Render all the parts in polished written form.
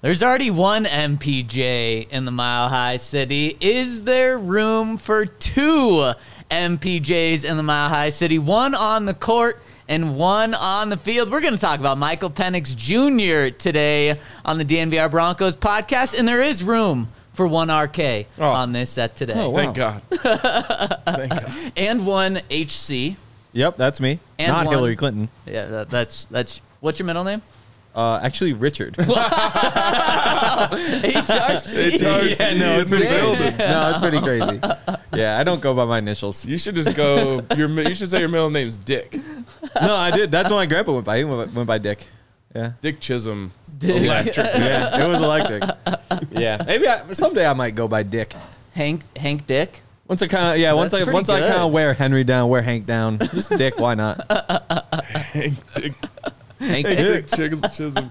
There's already one MPJ in the Mile High City. Is there room for two MPJs in the Mile High City? One on the court and one on the field. We're going to talk about Michael Penix Jr. today on the DNVR Broncos podcast, and there is room for one RK on this set today. Oh, wow. Thank God. Thank God. And one HC. Yep, that's me. And Not one- Hillary Clinton. Yeah, that's what's your middle name? Actually, Richard. HRC. Yeah, no, it's pretty Damn. crazy. No, it's pretty crazy. Yeah, I don't go by my initials. You should just go. You should say your middle name's Dick. No, I did. That's what my grandpa went by. He went by Dick. Yeah. Dick Chisholm. Dick. Electric. Yeah, it was electric. Yeah, maybe someday I might go by Dick. Hank Dick. Once I kind of once That's I pretty kind good. of wear Henry down, wear Hank down, just Dick. Why not? Hank Dick. Hank Dick Dick. Chisholm.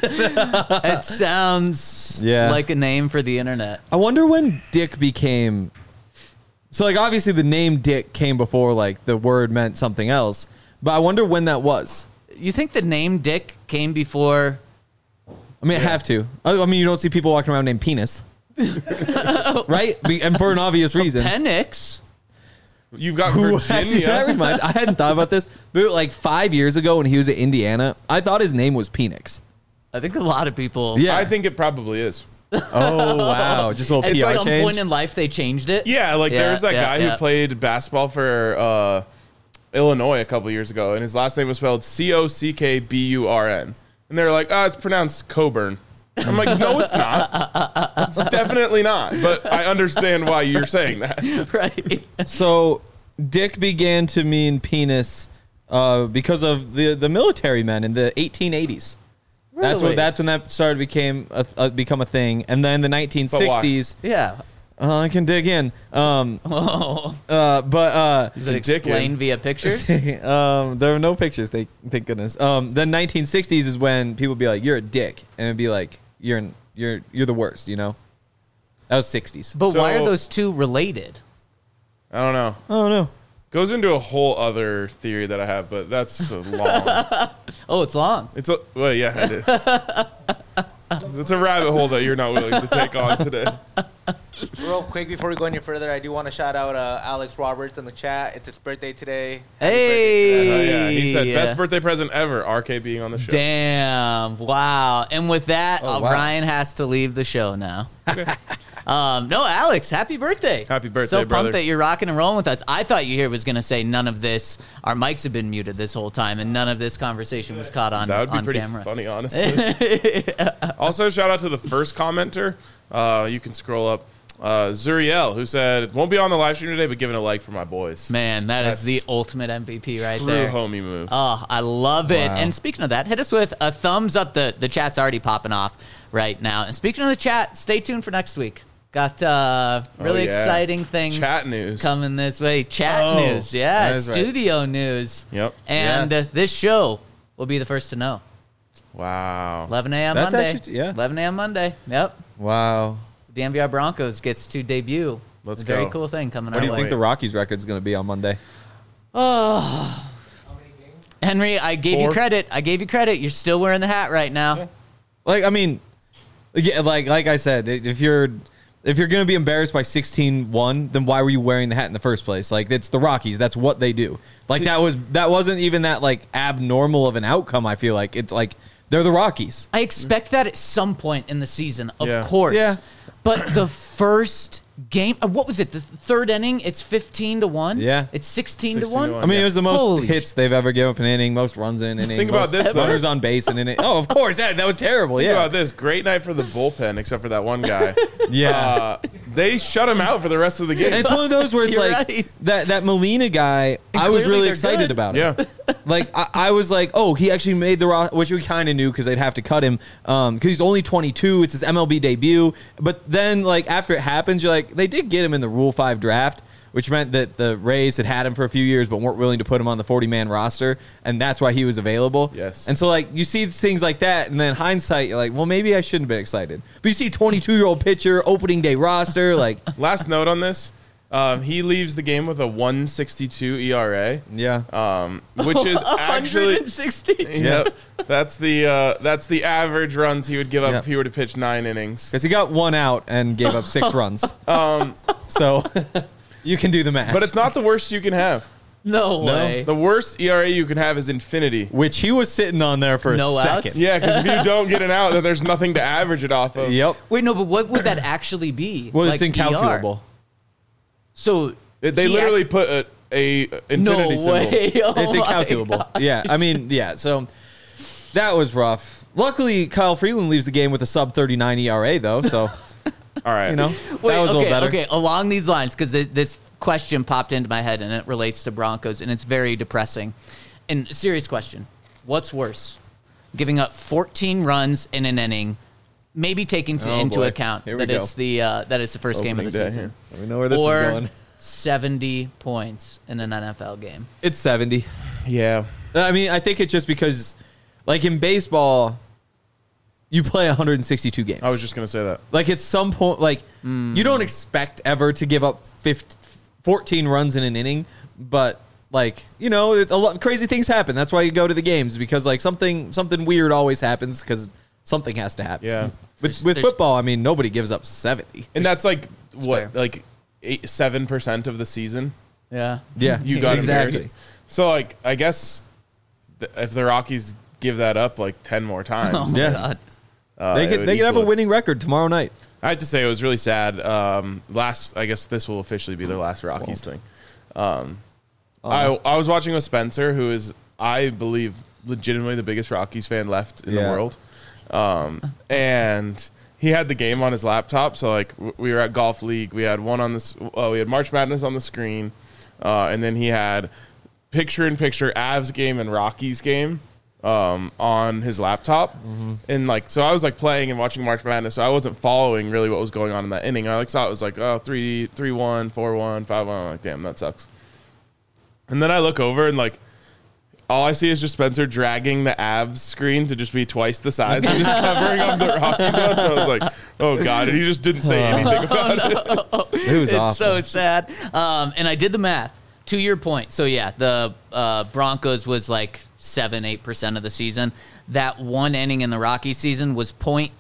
It sounds Yeah. like a name for the internet. I wonder when Dick became. So like obviously the name Dick came before like the word meant something else, but I wonder when that was. You think the name Dick came before? I mean, I have to. I mean, you don't see people walking around named Penis. Right? And for an obvious reason. Penix? You've got Who actually, that Virginia. reminds, I hadn't thought about this, but like 5 years ago when he was at Indiana, I thought his name was Penix. I think a lot of people. Yeah. I think it probably is. Oh, wow. Just a little At PI some change. point in life, they changed it. Yeah, like Yeah, there's that yeah, guy yeah. who played basketball for Illinois a couple years ago, and his last name was spelled Cockburn. And they're like, it's pronounced Coburn. I'm like, no, it's not. It's definitely not. But I understand why you're saying that. Right. So Dick began to mean penis because of the military men in the 1880s. That's Really? when that started become a thing. And then the 1960s. Yeah. I can dig in. Oh. Is it Dick explained in. via pictures? There were no pictures. Thank goodness. Then 1960s is when people would be like, "You're a dick," and it'd be like, "You're the worst." You know. That was 60s. But why are So- those two related? I don't know. Oh no. Goes into a whole other theory that I have, but that's long. Oh, it's long. Well, yeah, it is. It's a rabbit hole that you're not willing to take on today. Real quick before we go any further, I do want to shout out Alex Roberts in the chat. It's his birthday today. Happy Hey. birthday to Oh, yeah, he said Yeah. best birthday present ever. RK being on the show. Damn. Wow. And with that, Oh, wow. Ryan has to leave the show now. No, Alex, happy birthday. Happy birthday, So pumped brother. that you're rocking and rolling with us. I thought you here was going to say none of this, our mics have been muted this whole time, and none of this conversation was caught on, That would be on pretty camera. funny, honestly. Also, shout out to the first commenter. You can scroll up. Zuriel, who said, won't be on the live stream today, but giving a like for my boys. Man, that's the That's ultimate MVP right True there. homie move. Oh, I love it. Wow. And speaking of that, hit us with a thumbs up. The chat's already popping off right now. And speaking of the chat, stay tuned for next week. Got really yeah. exciting things Chat news. coming this way. Chat Oh, news, yeah, that is right. studio news. Yep. And Yes. this show will be the first to know. Wow. 11 a.m. That's Monday. actually- yeah. 11 a.m. Monday. Yep. Wow. DNVR Broncos gets to debut. Let's a very go. cool thing coming What our do you way. think the Rockies record is going to be on Monday? Henry, I gave you 4? credit. You're still wearing the hat right now. Like, I mean, yeah, like I said, if you're gonna be embarrassed by 16-1, then why were you wearing the hat in the first place? Like, it's the Rockies. That's what they do. Like, that wasn't even that like abnormal of an outcome. I feel like it's like they're the Rockies. I expect that at some point in the season, of Yeah. course. Yeah. But the first game, what was it? The third inning, it's 15-1. Yeah. It's 16-1. 16-1. I mean, it was the most Holy hits they've ever given up in an inning, most runs in an inning. Think about most this, though. runners on base in an inning. Oh, of course, that was terrible. Think Yeah, about this. Great night for the bullpen, except for that one guy. yeah. They shut him out for the rest of the game. And it's one of those where it's You're like right. that Molina guy. And I was clearly really they're excited good. about it. Yeah. Like I was like, oh, he actually made the roster, which we kind of knew because they'd have to cut him because he's only 22. It's his MLB debut. But then, like after it happens, you're like, they did get him in the Rule 5 draft, which meant that the Rays had him for a few years, but weren't willing to put him on the 40-man roster, and that's why he was available. Yes. And so, like, you see things like that, and then hindsight, you're like, well, maybe I shouldn't have been excited. But you see 22-year-old pitcher, opening day roster, like, Last note on this. He leaves the game with a 162 ERA. Yeah. Which is actually 162. Yep. That's the average runs he would give up Yep. if he were to pitch 9 innings. Because he got 1 out and gave up 6 runs. So you can do the math. But it's not the worst you can have. No way. The worst ERA you can have is infinity. Which he was sitting on there for No a outs? second. Yeah, because if you don't get an out, then there's nothing to average it off of. Yep. Wait, no, but what would that actually be? Well, Like it's incalculable. ER? So They he literally act- put a infinity no symbol. way. Oh It's my incalculable. God. Yeah. I mean, yeah. So that was rough. Luckily, Kyle Freeland leaves the game with a sub 39 ERA, though. So, All right. you know, Wait, that was a little better. Okay, along these lines, because this question popped into my head and it relates to Broncos, and it's very depressing. And serious question: what's worse, giving up 14 runs in an inning, maybe taking into boy. account Here we that go. it's the first game of the Opening day season, We know where this or is going. 70 points in an NFL game? It's 70. Yeah. I mean, I think it's just because, like in baseball, you play 162 games. I was just going to say that. Like at some point, like you don't expect ever to give up 14 runs in an inning, but like, you know, a lot crazy things happen. That's why you go to the games, because like something weird always happens because something has to happen. Yeah. With There's- football, I mean, nobody gives up 70. And that's like, fair. what, like 7% of the season? Yeah. Yeah, You got exactly. embarrassed. So, like, I guess if the Rockies give that up like 10 more Oh times, my Yeah. God. They it could would have equal a it. winning record tomorrow night. I have to say it was really sad. I guess this will officially be their last Rockies thing. I was watching with Spencer, who is, I believe, legitimately the biggest Rockies fan left in the Yeah. world. And he had the game on his laptop. So like we were at Golf League. We had we had March Madness on the screen, and then he had picture-in-picture Avs game and Rockies game on his laptop. And like, so I was like playing and watching March Madness, so I wasn't following really what was going on in that inning. I like saw it was like 3-1, 4-1, 5-1. I'm like, damn, that sucks. And then I look over and like all I see is just Spencer dragging the Avs screen to just be twice the size and just covering up the Rockies one. I was like, oh God. And he just didn't say anything about it. It was It's awful. so sad. And I did the math. To your point, so yeah, the Broncos was like 7-8% of the season. That one inning in the Rockies season was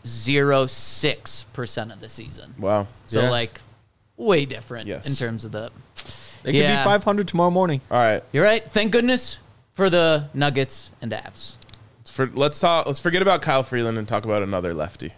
0.06% of the season. Wow. So Yeah. like way different Yes. in terms of the. They could Yeah. be 500 tomorrow morning. All right. You're right. Thank goodness for the Nuggets and Avs. Let's forget about Kyle Freeland and talk about another lefty.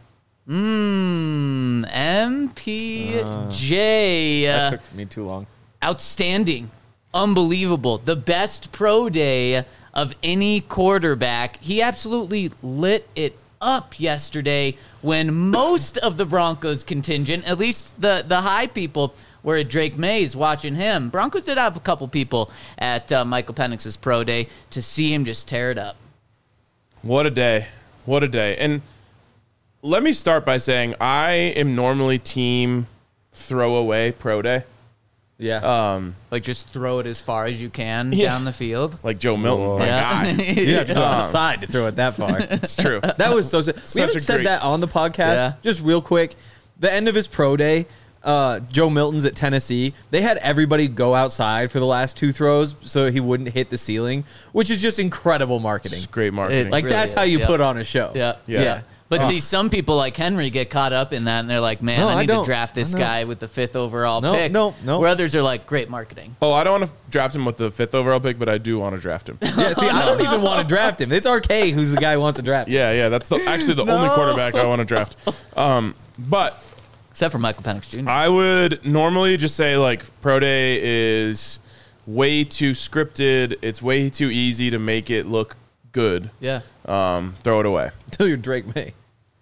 MPJ. That took me too long. Outstanding. Unbelievable. The best pro day of any quarterback. He absolutely lit it up yesterday when most of the Broncos contingent, at least the high people, were at Drake Mays watching him. Broncos did have a couple people at Michael Penix's pro day to see him just tear it up. What a day. What a day. And let me start by saying I am normally team throwaway pro day. Yeah. Like just throw it as far as you can Yeah. down the field. Like Joe Milton. Whoa. My Yeah. God. you have to go outside to throw it that far. It's true. That was so sad. We Such haven't a said great- that on the podcast. Yeah. Just real quick. The end of his pro day, Joe Milton's at Tennessee. They had everybody go outside for the last 2 throws so he wouldn't hit the ceiling, which is just incredible marketing. It's great marketing. Like really that's how is, you yeah. put on a show. Yeah. Yeah. But see, some people like Henry get caught up in that, and they're like, man, No, I I need to don't. draft this I know. guy with the 5th overall No, pick. no. Where others are like, great marketing. Oh, I don't want to draft him with the 5th overall pick, but I do want to draft him. Yeah, see, I don't even want to draft him. It's RK who's the guy who wants to draft him. Yeah, that's actually the only quarterback I want to draft. But Except for Michael Penix Jr. I would normally just say like pro day is way too scripted. It's way too easy to make it look good. Yeah. Throw it away. Until you're Drake May.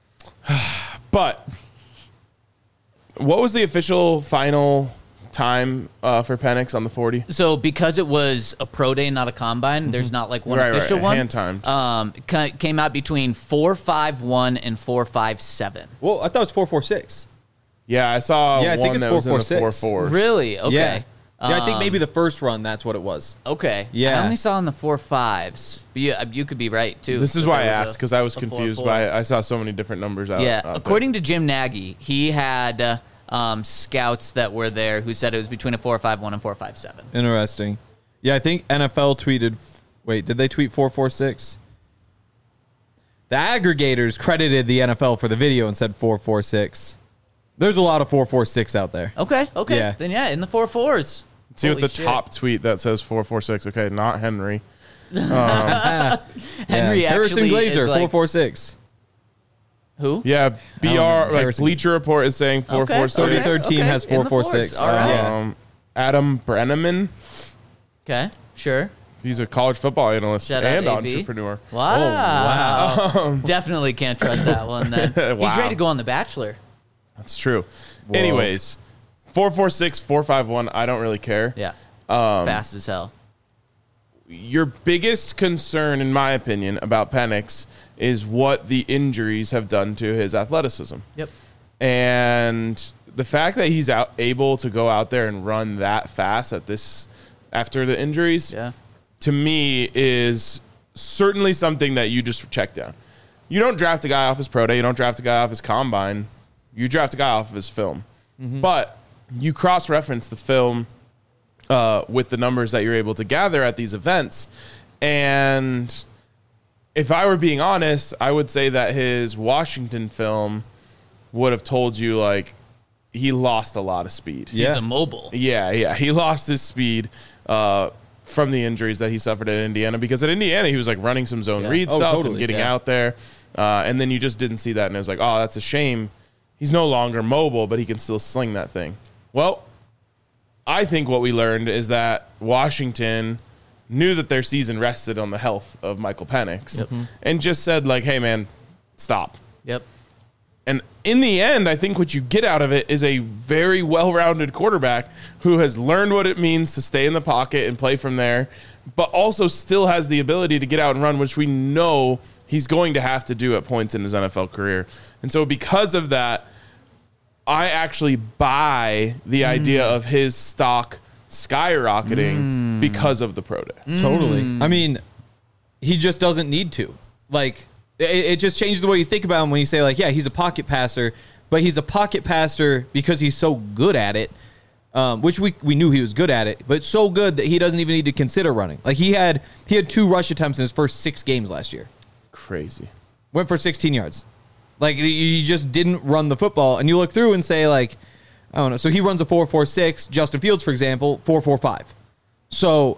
But what was the official final time for Penix on the 40? So because it was a pro day, not a combine, there's not like one Right, official right, one. hand-timed. Came out between 4.51 and 4.57. Well, I thought it was 4.46. Yeah, I saw Yeah, I think one it's that was in the 4.46. 4.4s. Really? Okay. Yeah. Yeah, I think maybe the first run, that's what it was. Okay. Yeah. I only saw in the 4.5s. But you could be right too. This is that why I there was asked, because I was a confused 4.4. by I saw so many different numbers out. Yeah, out there. according to Jim Nagy, he had scouts that were there who said it was between a 4.51 and 4.57. Interesting. Yeah, I think NFL tweeted. Wait, did they tweet 4.46? The aggregators credited the NFL for the video and said 4.46. There's a lot of 4.46 out there. Okay. Yeah. Then yeah, in the 4.4s. See what Holy the shit. top tweet that says 4.46. Okay, not Henry. Henry Harrison actually Glazer, is like, 4.46. who? Yeah, BR like Harrison. Bleacher Report is saying 4.46. Okay. 33rd team has in the 4.46. fours. All right. Yeah. Adam Brenneman. Okay, sure. He's a college football analyst Shout out and AB. entrepreneur. Wow. Definitely can't trust that one then. He's Wow. ready to go on The Bachelor. That's true. Whoa. Anyways, 4.46, 4.51. I don't really care. Yeah. Fast as hell. Your biggest concern, in my opinion, about Penix is what the injuries have done to his athleticism. Yep. And the fact that he's able to go out there and run that fast after the injuries, Yeah. to me is certainly something that you just check down. You don't draft a guy off his pro day. You don't draft a guy off his combine. You draft a guy off of his film. But you cross-reference the film with the numbers that you're able to gather at these events. And if I were being honest, I would say that his Washington film would have told you, like, he lost a lot of speed. Yeah. He's immobile. Yeah. He lost his speed from the injuries that he suffered at Indiana, because at Indiana, he was like running some zone read Oh, stuff totally. and getting Yeah. out there. And then you just didn't see that. And it was like, oh, that's a shame. He's no longer mobile, but he can still sling that thing. Well, I think what we learned is that Washington knew that their season rested on the health of Michael Penix and just said, like, hey, man, stop. Yep. And in the end, I think what you get out of it is a very well-rounded quarterback who has learned what it means to stay in the pocket and play from there, but also still has the ability to get out and run, which we know he's going to have to do at points in his NFL career. And so because of that, I actually buy the idea of his stock skyrocketing because of the pro day. Totally. I mean, he just doesn't need to. Like, it just changes the way you think about him when you say, like, yeah, he's a pocket passer, but he's a pocket passer because he's so good at it, which we knew he was good at it, but so good that he doesn't even need to consider running. Like, he had 2 rush attempts in his first 6 games last year. Crazy. Went for 16 yards. Like, you just didn't run the football. And you look through and say, like, I don't know. So he runs a 4.46. Justin Fields, for example, 4.45. So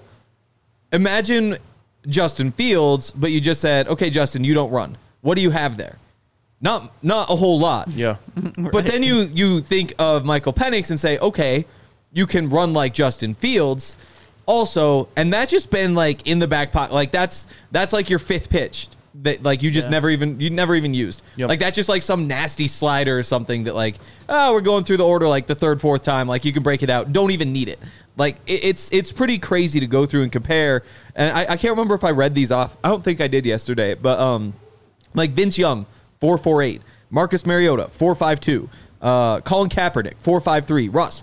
imagine Justin Fields, but you just said, okay, Justin, you don't run. What do you have there? Not a whole lot. Yeah. But then you think of Michael Penix and say, okay, you can run like Justin Fields also. And that's just been, like, in the back pocket. Like, that's like your 5th pitch that, like, you just never even used. Yep. Like, that's just like some nasty slider or something that, like, oh, we're going through the order like the 3rd, 4th time. Like, you can break it out. Don't even need it. Like, it's pretty crazy to go through and compare. And I can't remember if I read these off. I don't think I did yesterday. But like Vince Young, 4.48. Marcus Mariota, 4.52. Colin Kaepernick, 4.53. Russ,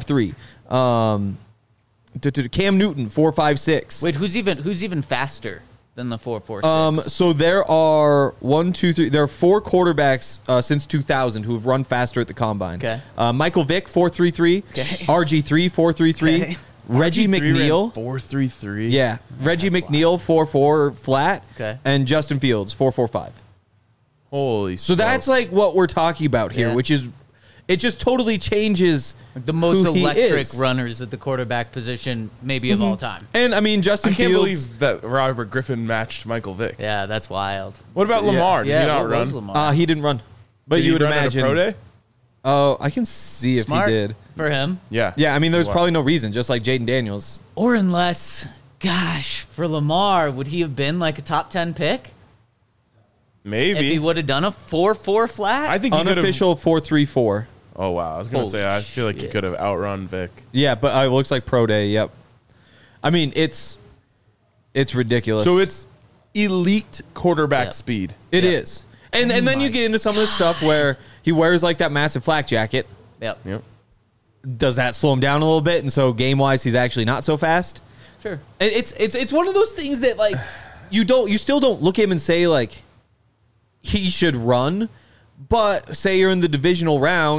4.53. Cam Newton, 4.56. Wait, who's even faster than the 4.46? So there are 1, 2, 3. There are 4 quarterbacks since 2000 who have run faster at the combine. Okay. Michael Vick, 4.33. Okay. RG3, 4.33. Okay. Reggie McNeil. 4.33. Yeah. Reggie McNeil, 4.4 flat. Okay. And Justin Fields, 4.45. Holy So that's smokes. like what we're talking about here, Yeah. which is, it just totally changes the most who he electric is. runners at the quarterback position, maybe of all time. And I mean, Justin I can't Fields. believe that Robert Griffin matched Michael Vick. Yeah, that's wild. What about Lamar? Did Yeah, he not what run? was Lamar? He didn't run, but Did you he would run at a imagine. pro day? Oh, I can see Smart if he did. for him. Yeah. Yeah, I mean, there's Wow. probably no reason, just like Jaden Daniels. Or unless, gosh, for Lamar, would he have been like a top 10 pick Maybe. if he would have done a 4.4 flat? I think he could have. Unofficial 4.34. Oh wow! I was gonna Holy say I feel like he shit. could have outrun Vic. Yeah, but it looks like pro day. Yep. I mean, it's ridiculous. So it's elite quarterback Yep. speed. It Yeah. is. And then you get into some of the stuff where he wears like that massive flak jacket. Yep. Yep. Does that slow him down a little bit? And so game wise, he's actually not so fast. Sure. It's one of those things that like you still don't look at him and say like he should run, but say you're in the divisional round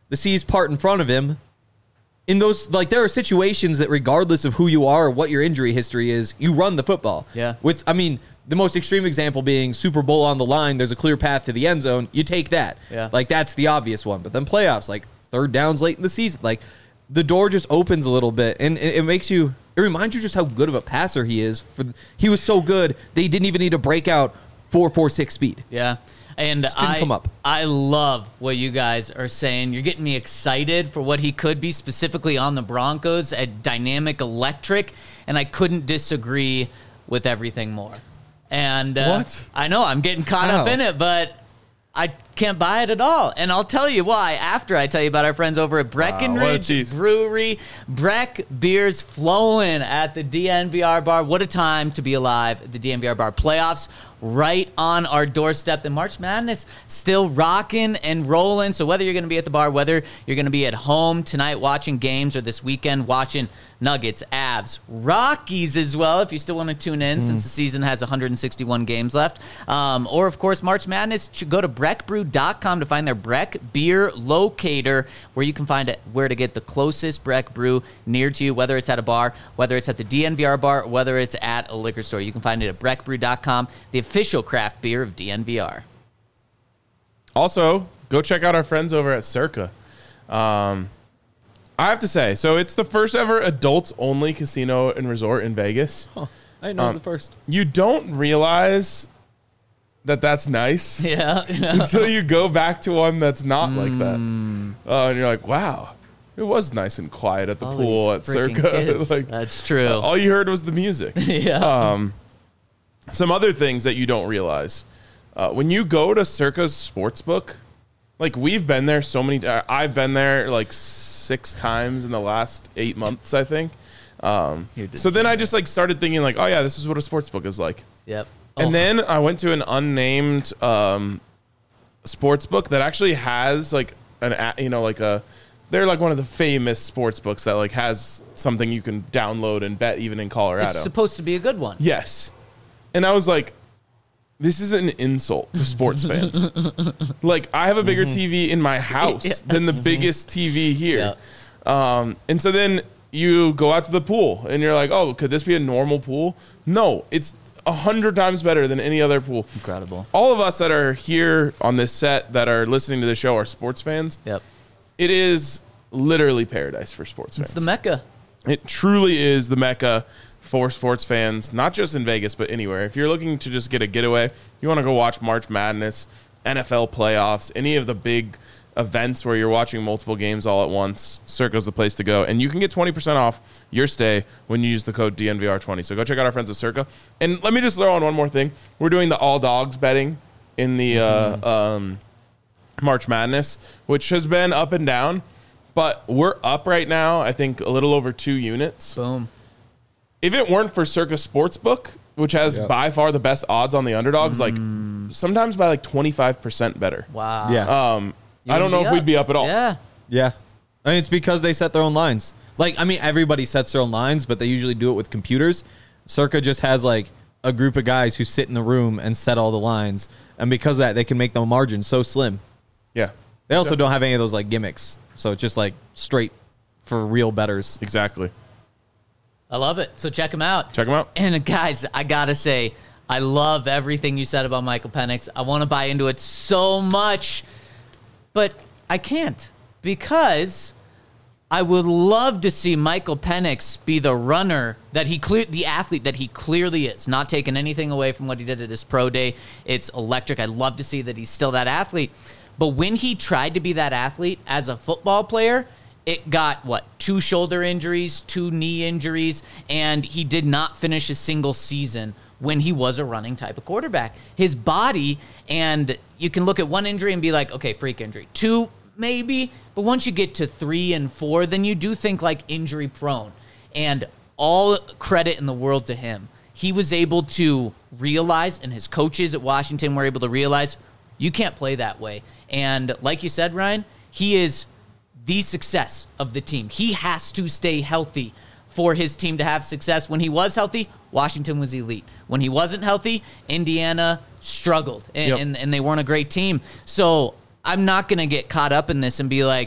the seas part in front of him. In those, like, there are situations that regardless of who you are or what your injury history is, you run the football. Yeah. The most extreme example being Super Bowl on the line, there's a clear path to the end zone. You take that. Yeah. Like, that's the obvious one. But then playoffs, like third downs late in the season, like the door just opens a little bit. And it reminds you just how good of a passer he is. He was so good, they didn't even need to break out 4.46 speed. Yeah. And Just didn't come up. I love what you guys are saying. You're getting me excited for what he could be, specifically on the Broncos, a dynamic, electric, and I couldn't disagree with everything more. And What? I know I'm getting caught up How? in it, but I can't buy it at all. And I'll tell you why after I tell you about our friends over at Breckenridge tease. Brewery. Breck beers flowing at the DNVR bar. What a time to be alive at the DNVR bar. Playoffs right on our doorstep. The March Madness still rocking and rolling. So whether you're going to be at the bar, whether you're going to be at home tonight watching games or this weekend watching Nuggets, Avs, Rockies as well, if you still want to tune in since the season has 161 games left. Or, of course, March Madness, go to breckbrew.com to find their Breck beer locator where you can find it, where to get the closest Breck brew near to you, whether it's at a bar, whether it's at the DNVR bar, or whether it's at a liquor store. You can find it at breckbrew.com, the official craft beer of DNVR. Also, go check out our friends over at Circa. I have to say, so it's the first ever adults-only casino and resort in Vegas. I didn't know it was the first. You don't realize that that's nice Yeah. until you go back to one that's not like that. And you're like, wow, it was nice and quiet at the All pool these at freaking Circa. kids. Like, That's true. all you heard was the music. Yeah. Some other things that you don't realize. When you go to Circa's Sportsbook, like we've been there so many times. I've been there like 6 times in the last 8 months, I think. So then I just like started thinking like, oh yeah, this is what a sportsbook is like. Yep. And then I went to an unnamed sports book that actually has like they're like one of the famous sports books that like has something you can download and bet even in Colorado. It's supposed to be a good one. Yes. And I was like, this is an insult to sports fans. Like I have a bigger TV in my house than the biggest TV here. Yeah. And so then you go out to the pool and you're like, oh, could this be a normal pool? No, it's 100 times better than any other pool. Incredible. All of us that are here on this set that are listening to the show are sports fans. Yep. It is literally paradise for sports fans. It's the Mecca. It truly is the Mecca for sports fans, not just in Vegas, but anywhere. If you're looking to just get a getaway, you want to go watch March Madness, NFL playoffs, any of the big events where you're watching multiple games all at once, Circa's the place to go. And you can get 20% off your stay when you use the code DNVR20. So go check out our friends at Circa. And let me just throw on one more thing. We're doing the all dogs betting in the March Madness, which has been up and down. But we're up right now, I think, a little over 2 units. Boom. If it weren't for Circa Sportsbook, which has by far the best odds on the underdogs, like sometimes by like 25% better. Wow. Yeah. I don't know if we'd be up at all. Yeah. Yeah. I mean, it's because they set their own lines. Like, I mean, everybody sets their own lines, but they usually do it with computers. Circa just has, like, a group of guys who sit in the room and set all the lines. And because of that, they can make the margin so slim. Yeah. They also don't have any of those, like, gimmicks. So it's just, like, straight for real bettors. Exactly. I love it. So check them out. Check them out. And guys, I got to say, I love everything you said about Michael Penix. I want to buy into it so much, but I can't because I would love to see Michael Penix be the runner that the athlete that he clearly is, not taking anything away from what he did at his pro day. It's electric. I'd love to see that he's still that athlete. But when he tried to be that athlete as a football player, it got, 2 shoulder injuries, 2 knee injuries, and he did not finish a single season when he was a running type of quarterback. His body, and you can look at 1 injury and be like, okay, freak injury. 2, maybe, but once you get to 3 and 4, then you do think like injury prone. And all credit in the world to him. He was able to realize, and his coaches at Washington were able to realize, you can't play that way. And like you said, Ryan, he is the success of the team. He has to stay healthy for his team to have success. When he was healthy, Washington was elite. When he wasn't healthy, Indiana struggled, and they weren't a great team. So I'm not going to get caught up in this and be like,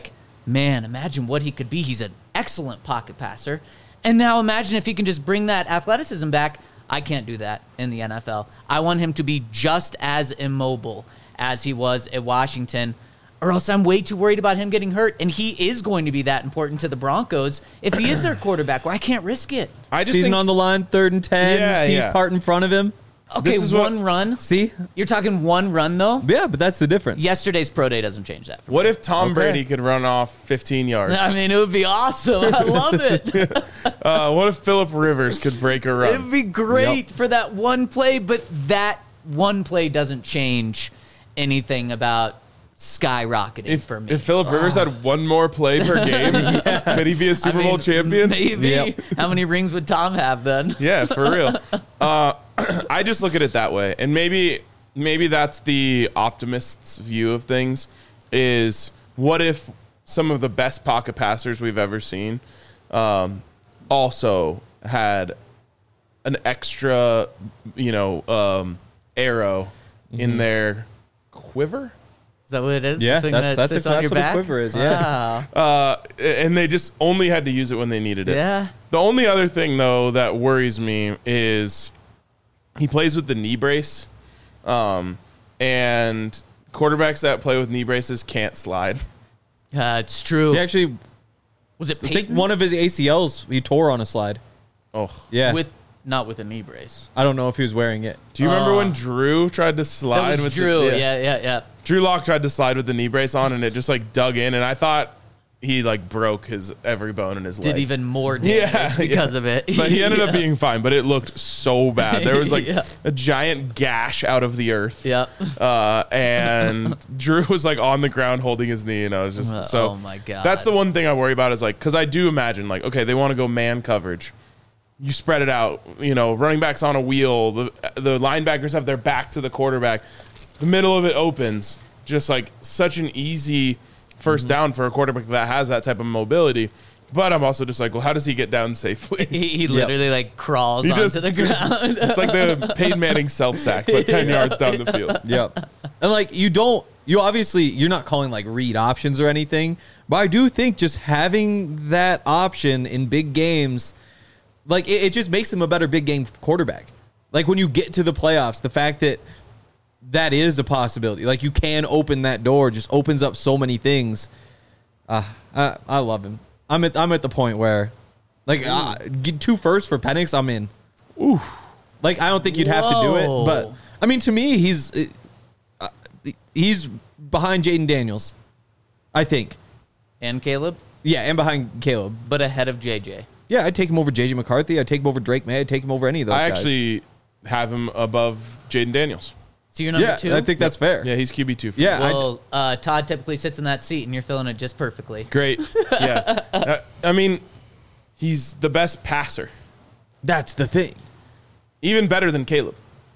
man, imagine what he could be. He's an excellent pocket passer. And now imagine if he can just bring that athleticism back. I can't do that in the NFL. I want him to be just as immobile as he was at Washington, or else I'm way too worried about him getting hurt. And he is going to be that important to the Broncos if he is their quarterback, where I can't risk it. I just Season think on the line, 3rd and 10. Yeah, Sees yeah. part in front of him. Okay, This is what- one run. See? You're talking one run, though? Yeah, but that's the difference. Yesterday's pro day doesn't change that for me. what if Tom Okay. Brady could run off 15 yards? I mean, it would be awesome. I love it. What if Phillip Rivers could break a run? It'd be great for that one play, but that one play doesn't change anything about skyrocketing for me. If Phillip Rivers had one more play per game, could he be a Super Bowl champion? Maybe. Yep. How many rings would Tom have then? Yeah, for real. I just look at it that way, and maybe that's the optimist's view of things. Is what if some of the best pocket passers we've ever seen also had an extra, arrow in their quiver? Is that what it is? Yeah, The thing that's that sits on what your a back? quiver is, yeah. Wow. And they just only had to use it when they needed it. Yeah. The only other thing, though, that worries me is he plays with the knee brace, and quarterbacks that play with knee braces can't slide. It's true. He actually, Was it I think Peyton? one of his ACLs he tore on a slide. Oh, Yeah. Not with a knee brace. I don't know if he was wearing it. do you remember when Drew tried to slide That was with Drew. The, Yeah. Drew Lock tried to slide with the knee brace on, and it just like dug in, and I thought he like broke his every bone in his leg. Did even more damage because of it. But he ended up Yeah. being fine, but it looked so bad. There was like Yeah. a giant gash out of the earth. Yeah. And Drew was like on the ground holding his knee, and I was just so. Oh my God. That's the one thing I worry about is like, because I do imagine like, okay, they want to go man coverage. You spread it out, running backs on a wheel. The linebackers have their back to the quarterback. The middle of it opens, just like such an easy first down for a quarterback that has that type of mobility. But I'm also just like, well, how does he get down safely? He literally like crawls He onto just- the ground. It's like the Peyton Manning self-sack, but 10 yards down the field. Yep. And like you're not calling like read options or anything, but I do think just having that option in big games, like it just makes him a better big game quarterback. Like when you get to the playoffs, the fact that is a possibility. Like you can open that door, just opens up so many things. I love him. I'm at the point where, like, get 2 firsts for Penix. I'm in. Ooh. Like I don't think you'd have to do it, but Whoa. I mean, to me, he's behind Jaden Daniels, I think. And Caleb, Yeah, and behind Caleb. but ahead of JJ. Yeah, I'd take him over JJ McCarthy. I'd take him over Drake May. I'd take him over any of those I guys. actually have him above Jaden Daniels. So you're number Yeah, 2? I think that's fair. Yeah, he's QB2 for Yeah, me. Well, Todd typically sits in that seat, and you're filling it just perfectly. Great. Yeah. I mean, he's the best passer. that's the thing. Even better than Caleb.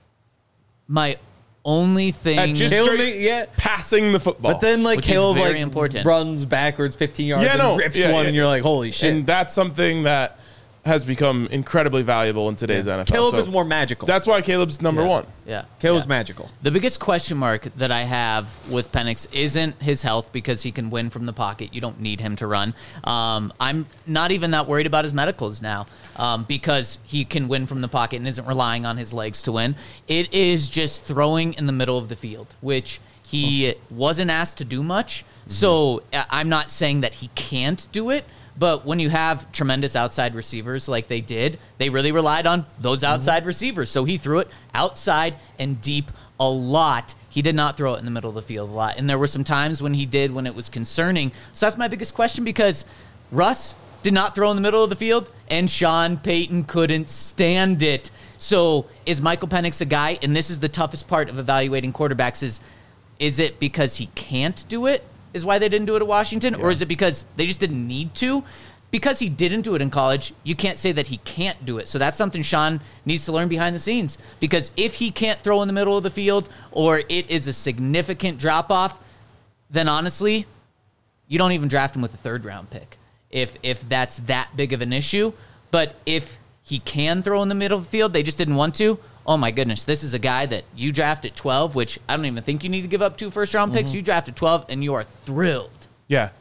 My only thing. At just Caleb, straight yeah. passing the football. But then, like, Which is Caleb, very like, important. runs backwards 15 yards Yeah, and no, rips yeah, one, yeah. and you're like, holy shit. And that's something that has become incredibly valuable in today's NFL. Caleb So is more magical. That's why Caleb's number Yeah. one. Yeah. Caleb's yeah. magical. The biggest question mark that I have with Penix isn't his health, because he can win from the pocket. You don't need him to run. I'm not even that worried about his medicals now, because he can win from the pocket and isn't relying on his legs to win. It is just throwing in the middle of the field, which he wasn't asked to do much. So I'm not saying that he can't do it. But when you have tremendous outside receivers like they did, they really relied on those outside receivers. So he threw it outside and deep a lot. He did not throw it in the middle of the field a lot. And there were some times when he did, when it was concerning. So that's my biggest question, because Russ did not throw in the middle of the field, and Sean Payton couldn't stand it. So is Michael Penix a guy? And this is the toughest part of evaluating quarterbacks is it because he can't do it? Is why they didn't do it at Washington? Or is it because they just didn't need to? Because he didn't do it in college, you can't say that he can't do it. So that's something Sean needs to learn behind the scenes. Because if he can't throw in the middle of the field, or it is a significant drop-off, then honestly, you don't even draft him with a third-round pick if that's that big of an issue. But if he can throw in the middle of the field, they just didn't want to. Oh my goodness, this is a guy that you draft at 12, which I don't even think you need to give up 2 first-round picks. You draft at 12, and you are thrilled. Yeah.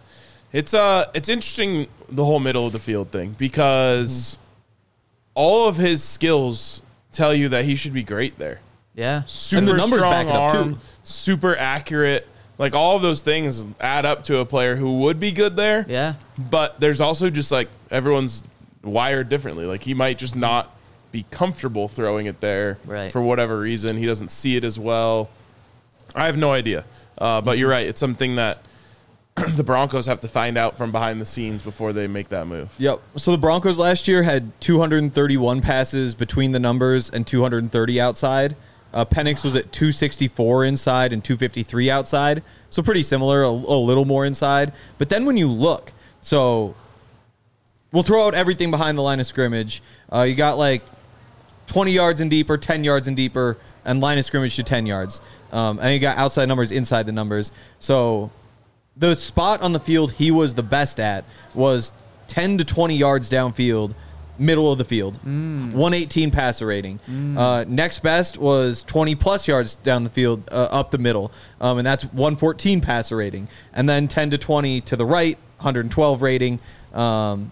It's interesting, the whole middle of the field thing, because all of his skills tell you that he should be great there. Yeah. Super And the numbers strong back it up, arm, too. super accurate. Like, all of those things add up to a player who would be good there. Yeah. But there's also just, like, everyone's wired differently. Like, he might just not be comfortable throwing it there Right. for whatever reason. He doesn't see it as well. I have no idea. But you're right. It's something that the Broncos have to find out from behind the scenes before they make that move. Yep. So the Broncos last year had 231 passes between the numbers and 230 outside. Penix was at 264 inside and 253 outside. So pretty similar, a little more inside. But then when you look, so we'll throw out everything behind the line of scrimmage. You got like 20 yards and deeper, 10 yards and deeper, and line of scrimmage to 10 yards. And you got outside numbers, inside the numbers. So the spot on the field he was the best at was 10 to 20 yards downfield, middle of the field. 118 passer rating. Next best was 20 plus yards down the field, up the middle. And that's 114 passer rating. And then 10 to 20 to the right, 112 rating. And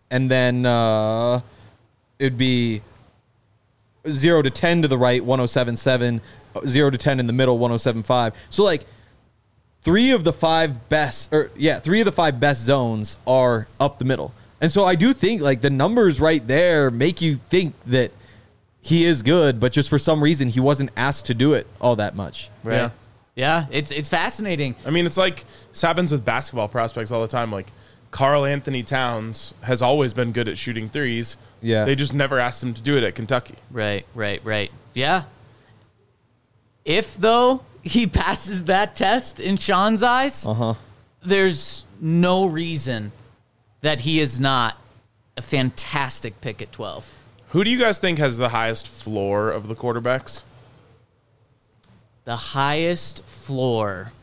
then it'd be 0 to 10 to the right, 107.7. 0 to 10 in the middle, 107.5. So like three of the five best zones are up the middle. And so I do think like the numbers right there make you think that he is good, but just for some reason he wasn't asked to do it all that much. Right. Yeah. Yeah. It's fascinating. I mean, it's like this happens with basketball prospects all the time. Like, Karl Anthony Towns has always been good at shooting threes. Yeah. They just never asked him to do it at Kentucky. Right. Yeah. If, though, he passes that test in Sean's eyes, there's no reason that he is not a fantastic pick at 12. Who do you guys think has the highest floor of the quarterbacks? The highest floor.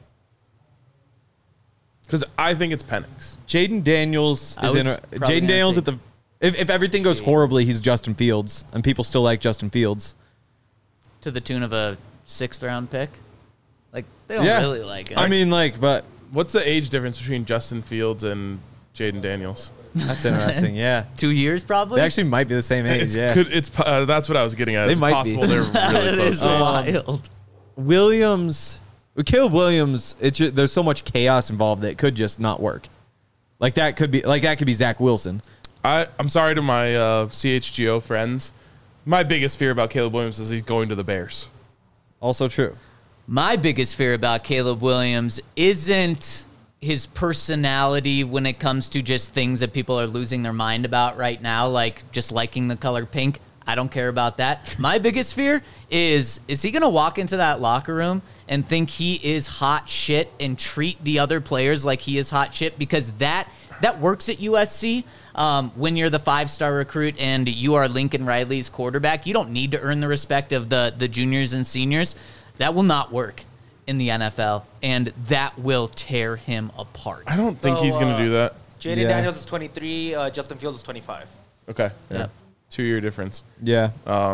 Because I think it's Penix. Jaden Daniels I is was in. probably Jaden gonna Daniels say at the. If everything goes horribly, he's Justin Fields, and people still like Justin Fields. To the tune of a 6th round pick. Like, they don't Yeah. really like him. I mean, like, but What's the age difference between Justin Fields and Jaden Daniels? that's interesting. Yeah, 2 years, probably? they actually might be the same age. Yeah, That's what I was getting at. They It's might be. possible they're really That close. is wild. Williams, with Caleb Williams, there's so much chaos involved that it could just not work. Like that could be Zach Wilson. I'm sorry to my CHGO friends. My biggest fear about Caleb Williams is he's going to the Bears. Also true. My biggest fear about Caleb Williams isn't his personality when it comes to just things that people are losing their mind about right now, like just liking the color pink. I don't care about that. My biggest fear is he going to walk into that locker room and think he is hot shit and treat the other players like he is hot shit? Because that works at USC. When you're the 5-star recruit and you are Lincoln Riley's quarterback, you don't need to earn the respect of the juniors and seniors. That will not work in the NFL, and that will tear him apart. I don't think he's going to do that. Jaden Yeah. Daniels is 23. Justin Fields is 25. Okay. Yep. 2-year difference. Yeah.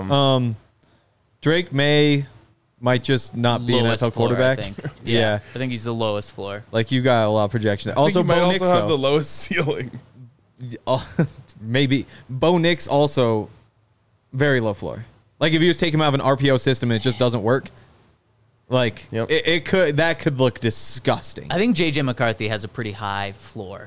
Drake May might just not be an Lowest NFL floor, quarterback. I think. Yeah. I think he's the lowest floor. Like you got a lot of projection. I Also, think he might Bo also Nix, have the though. lowest ceiling. Maybe Bo Nix also very low floor. Like if you just take him out of an RPO system and it just doesn't work, like Yep. it could look disgusting. I think J.J. McCarthy has a pretty high floor.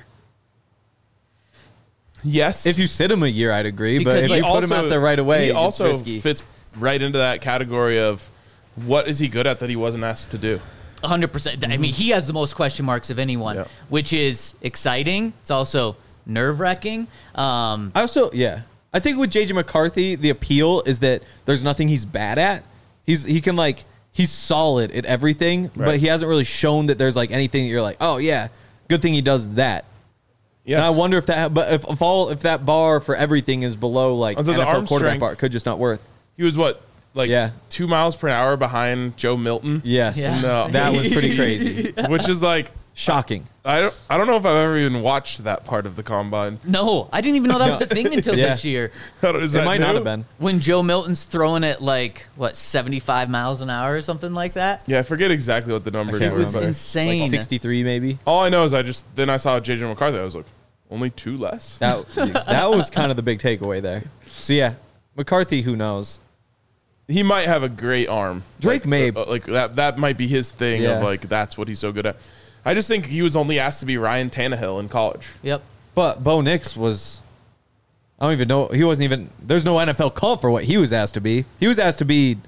Yes. If you sit him a year, I'd agree. Because But if he you put him out there right away, he it's also risky. fits right into that category of what is he good at that he wasn't asked to do. 100%. I mean, he has the most question marks of anyone, Yeah. which is exciting. It's also nerve-wracking. I think with JJ McCarthy, the appeal is that there's nothing he's bad at. He's solid at everything, but Right. he hasn't really shown that there's like anything that you're like, oh yeah, good thing he does that. Yes. And I wonder if that bar for everything is below like Although the NFL arm quarterback strength- bar, it could just not work. He was what? Like Yeah. 2 miles per hour behind Joe Milton? Yes, Yeah. No. that was pretty crazy. Which is like Shocking. I don't know if I've ever even watched that part of the combine. No, I didn't even know that was a thing until Yeah. this year. Is It that might not new? have been. When Joe Milton's throwing it like, 75 miles an hour or something like that? Yeah, I forget exactly what the numbers can't were. It was but insane. Like 63 maybe. all I know is then I saw JJ McCarthy. I was like, only 2 less? That was kind of the big takeaway there. So yeah, McCarthy, who knows? He might have a great arm. Drake may. Like that might be his thing Yeah. of like, that's what he's so good at. I just think he was only asked to be Ryan Tannehill in college. Yep. But Bo Nix was, I don't even know. He wasn't even, there's no NFL call for what he was asked to be. He was asked to be,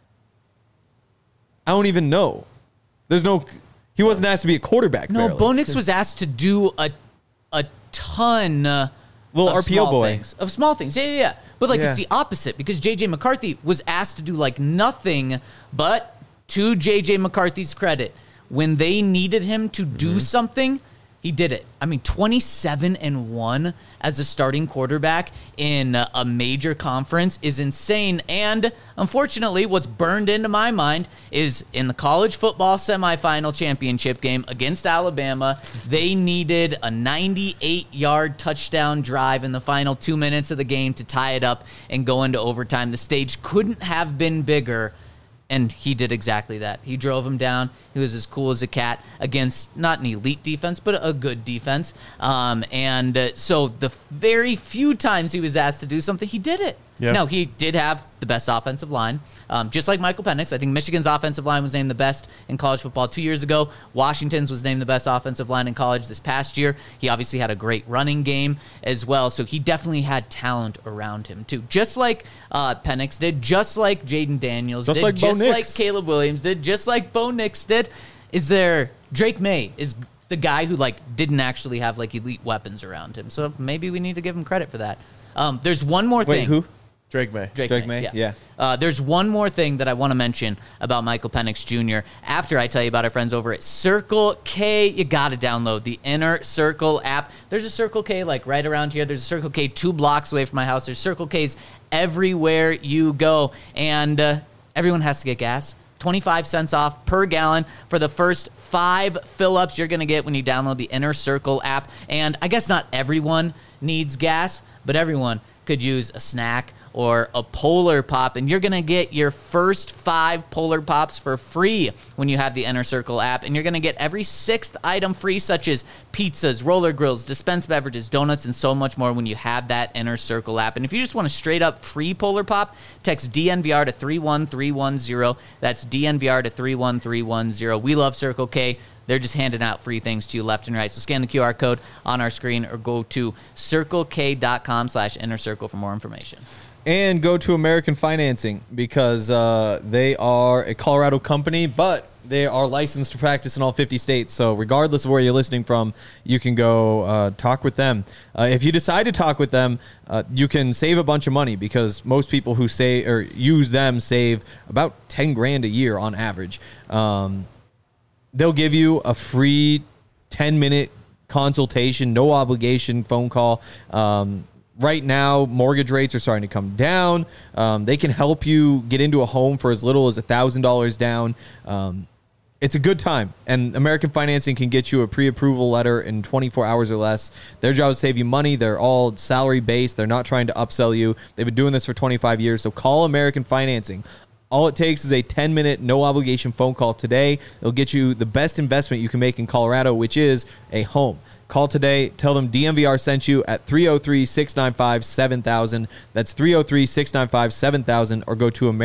I don't even know. He wasn't asked to be a quarterback. No, barely. Bo Nix was asked to do a ton Little of RPO small boy. things. Of small things. Yeah. But like Yeah. it's the opposite because JJ McCarthy was asked to do like nothing, but to JJ McCarthy's credit, when they needed him to do something, he did it. I mean, 27-1 as a starting quarterback in a major conference is insane. And unfortunately, what's burned into my mind is in the college football semifinal championship game against Alabama, they needed a 98-yard touchdown drive in the final 2 minutes of the game to tie it up and go into overtime. The stage couldn't have been bigger. And he did exactly that. He drove him down. He was as cool as a cat against not an elite defense, but a good defense. So the very few times he was asked to do something, he did it. Yeah. Now, he did have the best offensive line, just like Michael Penix. I think Michigan's offensive line was named the best in college football 2 years ago. Washington's was named the best offensive line in college this past year. He obviously had a great running game as well, so he definitely had talent around him, too. Just like Penix did, just like Jaden Daniels Just did, like Bo just like Nix. Caleb Williams did, just like Bo Nix did. Drake May is the guy who didn't actually have elite weapons around him, so maybe we need to give him credit for that. There's one more Wait, thing. who? Drake May. Drake May? Yeah. There's one more thing that I want to mention about Michael Penix Jr. after I tell you about our friends over at Circle K. You got to download the Inner Circle app. There's a Circle K right around here. There's a Circle K 2 blocks away from my house. There's Circle Ks everywhere you go. And everyone has to get gas. 25 cents off per gallon for the first 5 fill-ups you're going to get when you download the Inner Circle app. And I guess not everyone needs gas, but everyone could use a snack or a Polar Pop, and you're going to get your first 5 Polar Pops for free when you have the Inner Circle app, and you're going to get every 6th item free, such as pizzas, roller grills, dispensed beverages, donuts, and so much more when you have that Inner Circle app. And if you just want a straight-up free Polar Pop, text DNVR to 31310. That's DNVR to 31310. We love Circle K. They're just handing out free things to you left and right. So scan the QR code on our screen or go to circlek.com/innercircle for more information. And go to American Financing because they are a Colorado company, but they are licensed to practice in all 50 states. So regardless of where you're listening from, you can go talk with them. If you decide to talk with them, you can save a bunch of money because most people who say or use them save about 10 grand a year on average. They'll give you a free 10-minute consultation, no obligation phone call. Right now, mortgage rates are starting to come down. They can help you get into a home for as little as $1,000 down. It's a good time. And American Financing can get you a pre-approval letter in 24 hours or less. Their job is to save you money. They're all salary-based. They're not trying to upsell you. They've been doing this for 25 years. So call American Financing. All it takes is a 10-minute, no-obligation phone call today. It'll get you the best investment you can make in Colorado, which is a home. Call today. Tell them DNVR sent you at 303-695-7000. That's 303-695-7000, or go to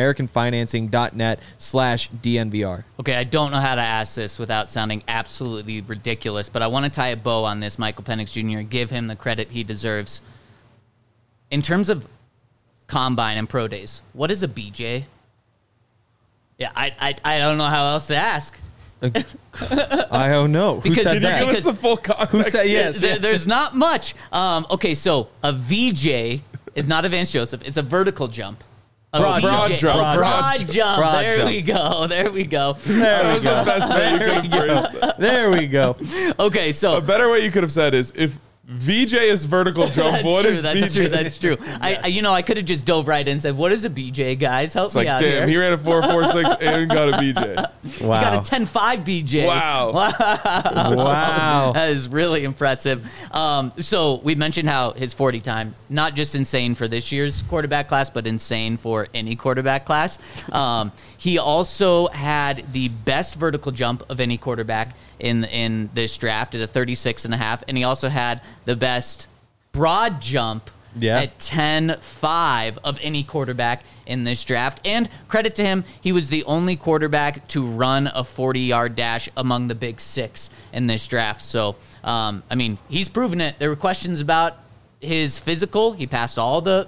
americanfinancing.net/DNVR. Okay, I don't know how to ask this without sounding absolutely ridiculous, but I want to tie a bow on this Michael Penix Jr. and give him the credit he deserves. In terms of combine and pro days, what is a BJ? Yeah, I don't know how else to ask. I don't know. Who Because- said Can you that? give us the full context? Who said yes? There's not much. Okay, so a VJ is not a Vance Joseph. It's a vertical jump. Broad VJ, jump. a broad jump. Broad There jump. we go. There we go. That was the best way you could have phrased that. There we go. Okay, so A better way you could have said is if VJ is vertical jump. That's What true. is That's BJ? true. That's true. I could have just dove right in and said, "What is a BJ, guys? Help It's me like, out damn, he here." ran a 4.46 and got a BJ. Wow. He got a 10.5 BJ. Wow. Wow. That is really impressive. So we mentioned how his 40 time, not just insane for this year's quarterback class, but insane for any quarterback class. He also had the best vertical jump of any quarterback in this draft at a 36.5, and he also had the best broad jump at 10.5 of any quarterback in this draft. And credit to him, he was the only quarterback to run a 40-yard dash among the big six in this draft. So, I mean, he's proven it. There were questions about his physical. He passed all the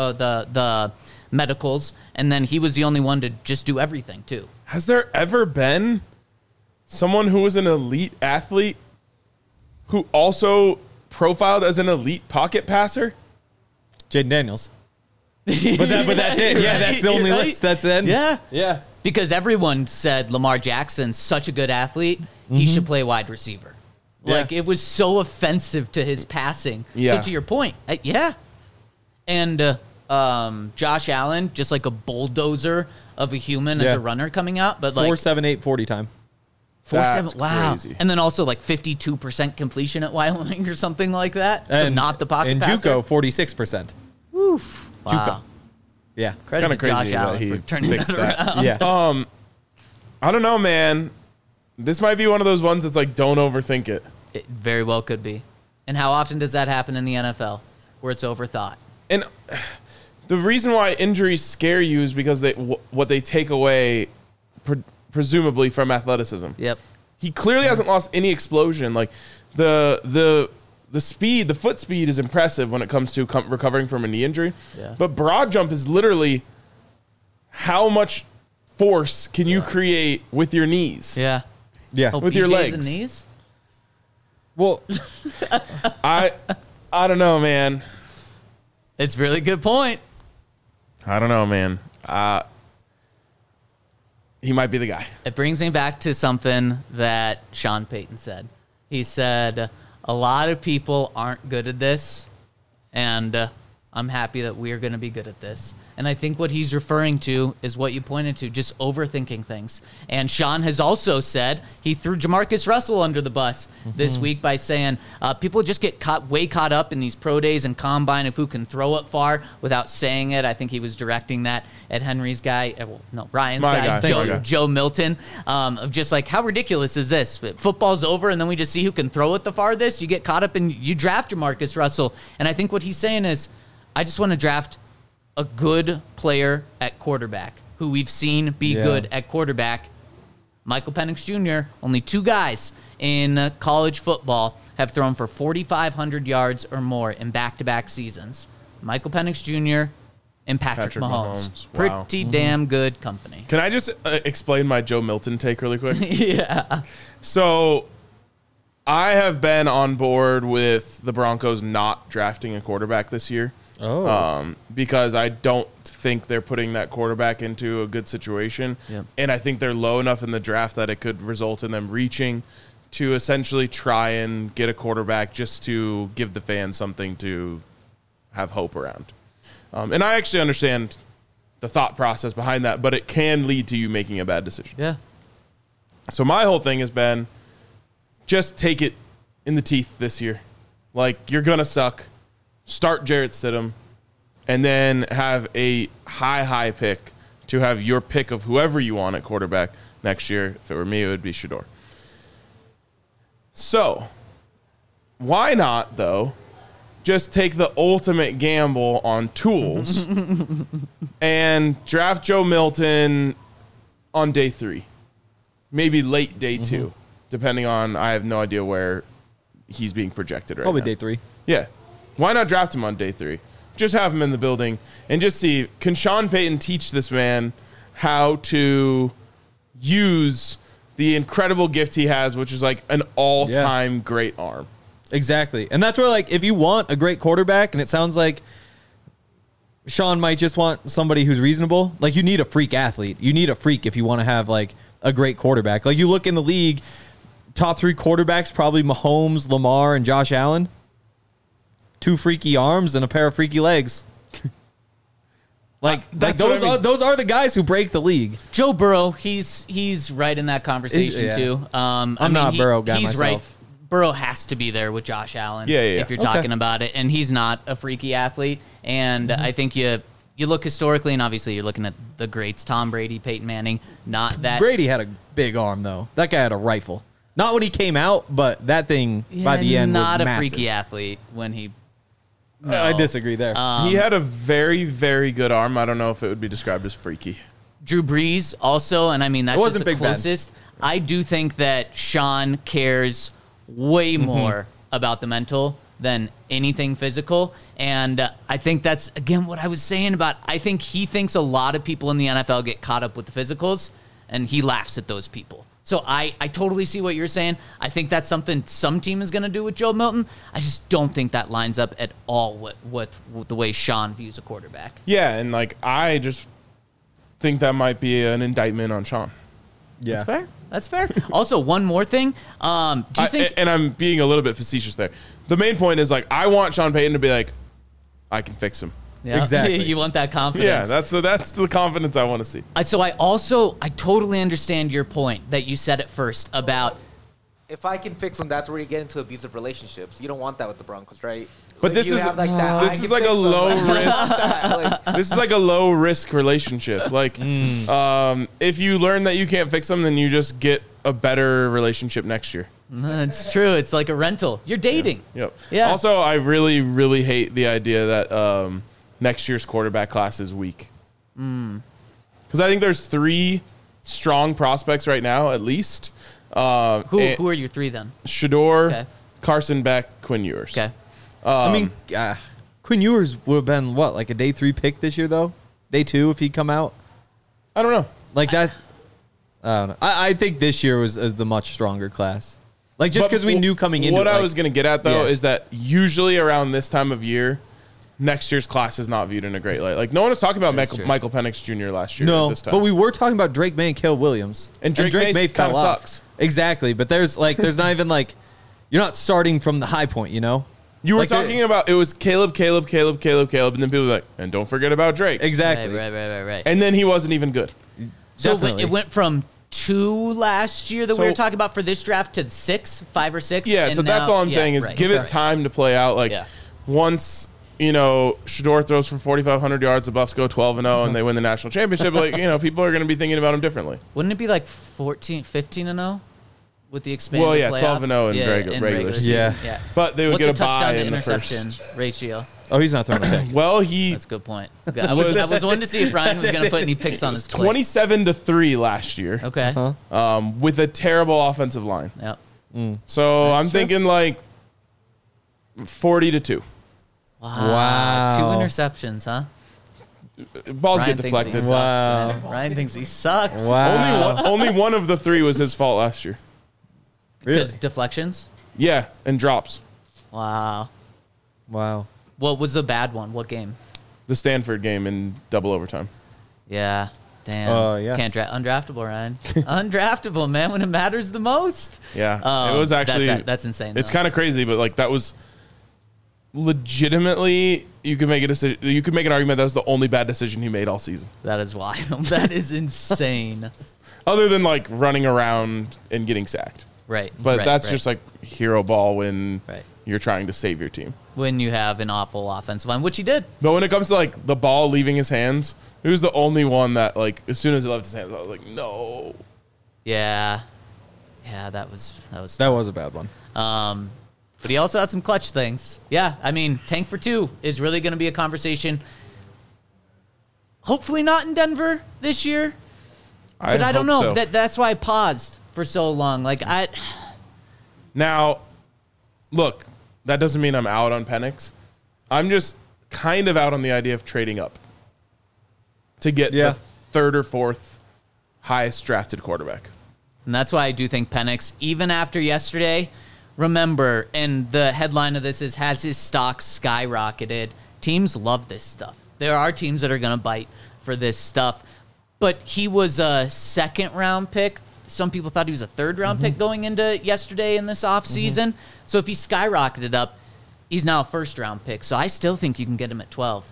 medicals, and then he was the only one to just do everything, too. Has there ever been someone who was an elite athlete who also profiled as an elite pocket passer? Jaden Daniels. But that's it. Yeah, that's the only list. That's it. Yeah. Yeah. Because everyone said Lamar Jackson's such a good athlete, he should play wide receiver. Yeah. Like, it was so offensive to his passing. Yeah. So to your point, yeah. And Josh Allen, just like a bulldozer of a human as Yeah. a runner coming out. But like 4.78 40 time. 4.7, wow. crazy. And then also like 52% completion at Wyoming or something like that. So not the pocket and passer. JUCO 46%. Oof. Wow. JUCO. Yeah. Credit kinda to Josh crazy that Allen he for turning fixed that that. around. Yeah. I don't know, man. This might be one of those ones that's like, don't overthink it. It very well could be. And how often does that happen in the NFL where it's overthought? And the reason why injuries scare you is because what they take away, presumably, from athleticism. Yep. He clearly hasn't lost any explosion. Like the speed, the foot speed is impressive when it comes to recovering from a knee injury. Yeah. But broad jump is literally how much force can you create with your knees? Yeah. Yeah. Oh, With your BJs legs. and knees? Well, I don't know, man. It's a really good point. I don't know, man. He might be the guy. It brings me back to something that Sean Payton said. He said, a lot of people aren't good at this, and I'm happy that we're going to be good at this. And I think what he's referring to is what you pointed to, just overthinking things. And Sean has also said he threw Jamarcus Russell under the bus this week by saying people just get caught up in these pro days and combine of who can throw it far without saying it. I think he was directing that at Henry's guy, Ryan's My guy. Joe Milton, of just like, how ridiculous is this? Football's over, and then we just see who can throw it the farthest. You get caught up and you draft Jamarcus Russell. And I think what he's saying is, I just want to draft a good player at quarterback who we've seen be good at quarterback. Michael Penix Jr., only two guys in college football have thrown for 4,500 yards or more in back-to-back seasons. Michael Penix Jr. and Patrick Mahomes. Wow. Pretty damn good company. Can I just explain my Joe Milton take really quick? Yeah. So I have been on board with the Broncos not drafting a quarterback this year. Because I don't think they're putting that quarterback into a good situation. Yep. And I think they're low enough in the draft that it could result in them reaching to essentially try and get a quarterback just to give the fans something to have hope around. And I actually understand the thought process behind that, but it can lead to you making a bad decision. Yeah. So my whole thing has been just take it in the teeth this year. Like, you're going to suck. Start Jarrett Stidham, and then have a high pick to have your pick of whoever you want at quarterback next year. If it were me, it would be Shedeur. So, why not, though, just take the ultimate gamble on tools and draft Joe Milton on day 3, maybe late day 2, depending on, I have no idea where he's being projected right probably now. day 3. Yeah. Why not draft him on day 3? Just have him in the building and just see, can Sean Payton teach this man how to use the incredible gift he has, which is like an all-time great arm. Exactly. And that's where, like, if you want a great quarterback, and it sounds like Sean might just want somebody who's reasonable, like, you need a freak athlete. You need a freak if you want to have, like, a great quarterback. Like, you look in the league, top 3 quarterbacks, probably Mahomes, Lamar, and Josh Allen. 2 freaky arms and a pair of freaky legs. That's what I mean. Those are the guys who break the league. Joe Burrow, he's right in that conversation Yeah. too. I'm not a Burrow guy He's myself. right. Burrow has to be there with Josh Allen. Yeah. If you're talking about it, and he's not a freaky athlete, and I think you look historically, and obviously you're looking at the greats: Tom Brady, Peyton Manning. Not that Brady had a big arm, though. That guy had a rifle. Not when he came out, but that thing by the end not was a massive. freaky athlete when he. I disagree there. He had a very, very good arm. I don't know if it would be described as freaky. Drew Brees also, and I mean that's It just wasn't the Big Ben. closest. I do think that Sean cares way more about the mental than anything physical, and I think that's again what I was saying about. I think he thinks a lot of people in the NFL get caught up with the physicals, and he laughs at those people. So I totally see what you're saying. I think that's something some team is going to do with Joe Milton. I just don't think that lines up at all with the way Sean views a quarterback. Yeah, and like I just think that might be an indictment on Sean. yeah. That's fair. That's fair. Also, one more thing. Do you think? And I'm being a little bit facetious there. The main point is like I want Sean Payton to be like, I can fix him. Yeah, Exactly. You want that confidence. Yeah, that's the confidence I want to see. So I totally understand your point that you said at first about If I can fix them, that's where you get into abusive relationships. You don't want that with the Broncos, right? But Like, this you is- have like that, this I is can like a fix them. low risk- Like, This is like a low risk relationship. Like, if you learn that you can't fix them, then you just get a better relationship next year. it's true. It's like a rental. You're dating. Yep. Yeah. Also, I really, really hate the idea that next year's quarterback class is weak. Because I think there's 3 strong prospects right now, at least. Who are your 3 then? Shador, Okay. Carson Beck, Quinn Ewers. Okay. I mean, Quinn Ewers would have been, what, like a day 3 pick this year, though? Day 2 if he'd come out? I don't know. Like that? I don't know. I think this year was the much stronger class. Like, just But because we knew coming into what it. I like- was going to get at, though, Yeah. is that usually around this time of year, next year's class is not viewed in a great light. Like, no one was talking about That's true. Michael Penix Jr. last year at No, this time. but we were talking about Drake May and Caleb Williams. And Drake May fell kinda off. sucks. Exactly, but there's not even like, you're not starting from the high point, you know? You were Like, talking about it was Caleb, and then people were like, and don't forget about Drake. Exactly. Right. And then he wasn't even good. So Definitely. it went from 2 last year that we So- were talking about for this draft to 5 or 6. Yeah, and so that's now- all I'm yeah, saying is right, give it right. time to play out. Like, Yeah. once, Shador throws for 4,500 yards, the Buffs go 12-0, and they win the national championship, like, people are going to be thinking about him differently. Wouldn't it be like 15-0 with the expanded Well, yeah, playoffs? 12-0 in regular season. Yeah. But they would What's get a a touchdown bye to in the interception first. ratio? Oh, he's not throwing a pick. Well, he That's a good point. I was wanting to see if Ryan was going to put any picks on his plate. 27-3 last year, Okay. with a terrible offensive line. Yep. So That's I'm true. thinking like 40-2. Wow. 2 interceptions, huh? Balls Ryan get thinks he deflected. sucks, Wow. man. Ryan thinks he sucks. Wow. Only one of the 3 was his fault last year. Because Really? deflections? Yeah, and drops. Wow. Wow. What was the bad one? What game? The Stanford game in double overtime. Yeah. Damn. Yes. Can't undraftable, Ryan. Undraftable, man, when it matters the most. Yeah, it was actually that's insane. It's though. kind of crazy, but like that was legitimately you could make a decision. You could make an argument that was the only bad decision he made all season, That is wild. That is insane. other than like running around and getting sacked. Right. But right, that's right. just like hero ball when Right. you're trying to save your team. when you have an awful offensive line, which he did. But when it comes to like the ball leaving his hands, he was the only one that like as soon as it left his hands, I was like, no. Yeah. Yeah, that was That was a bad one. but he also had some clutch things. Yeah, I mean, tank for 2 is really going to be a conversation. Hopefully not in Denver this year, but I don't hope know. so. That's why I paused for so long. Now, look, that doesn't mean I'm out on Penix. I'm just kind of out on the idea of trading up to get the 3rd or 4th highest drafted quarterback. And that's why I do think Penix, even after yesterday, remember, and the headline of this is, has his stock skyrocketed? Teams love this stuff. There are teams that are going to bite for this stuff. But he was a 2nd-round pick. Some people thought he was a 3rd-round pick going into yesterday in this offseason. So if he skyrocketed up, he's now a first-round pick. So I still think you can get him at 12.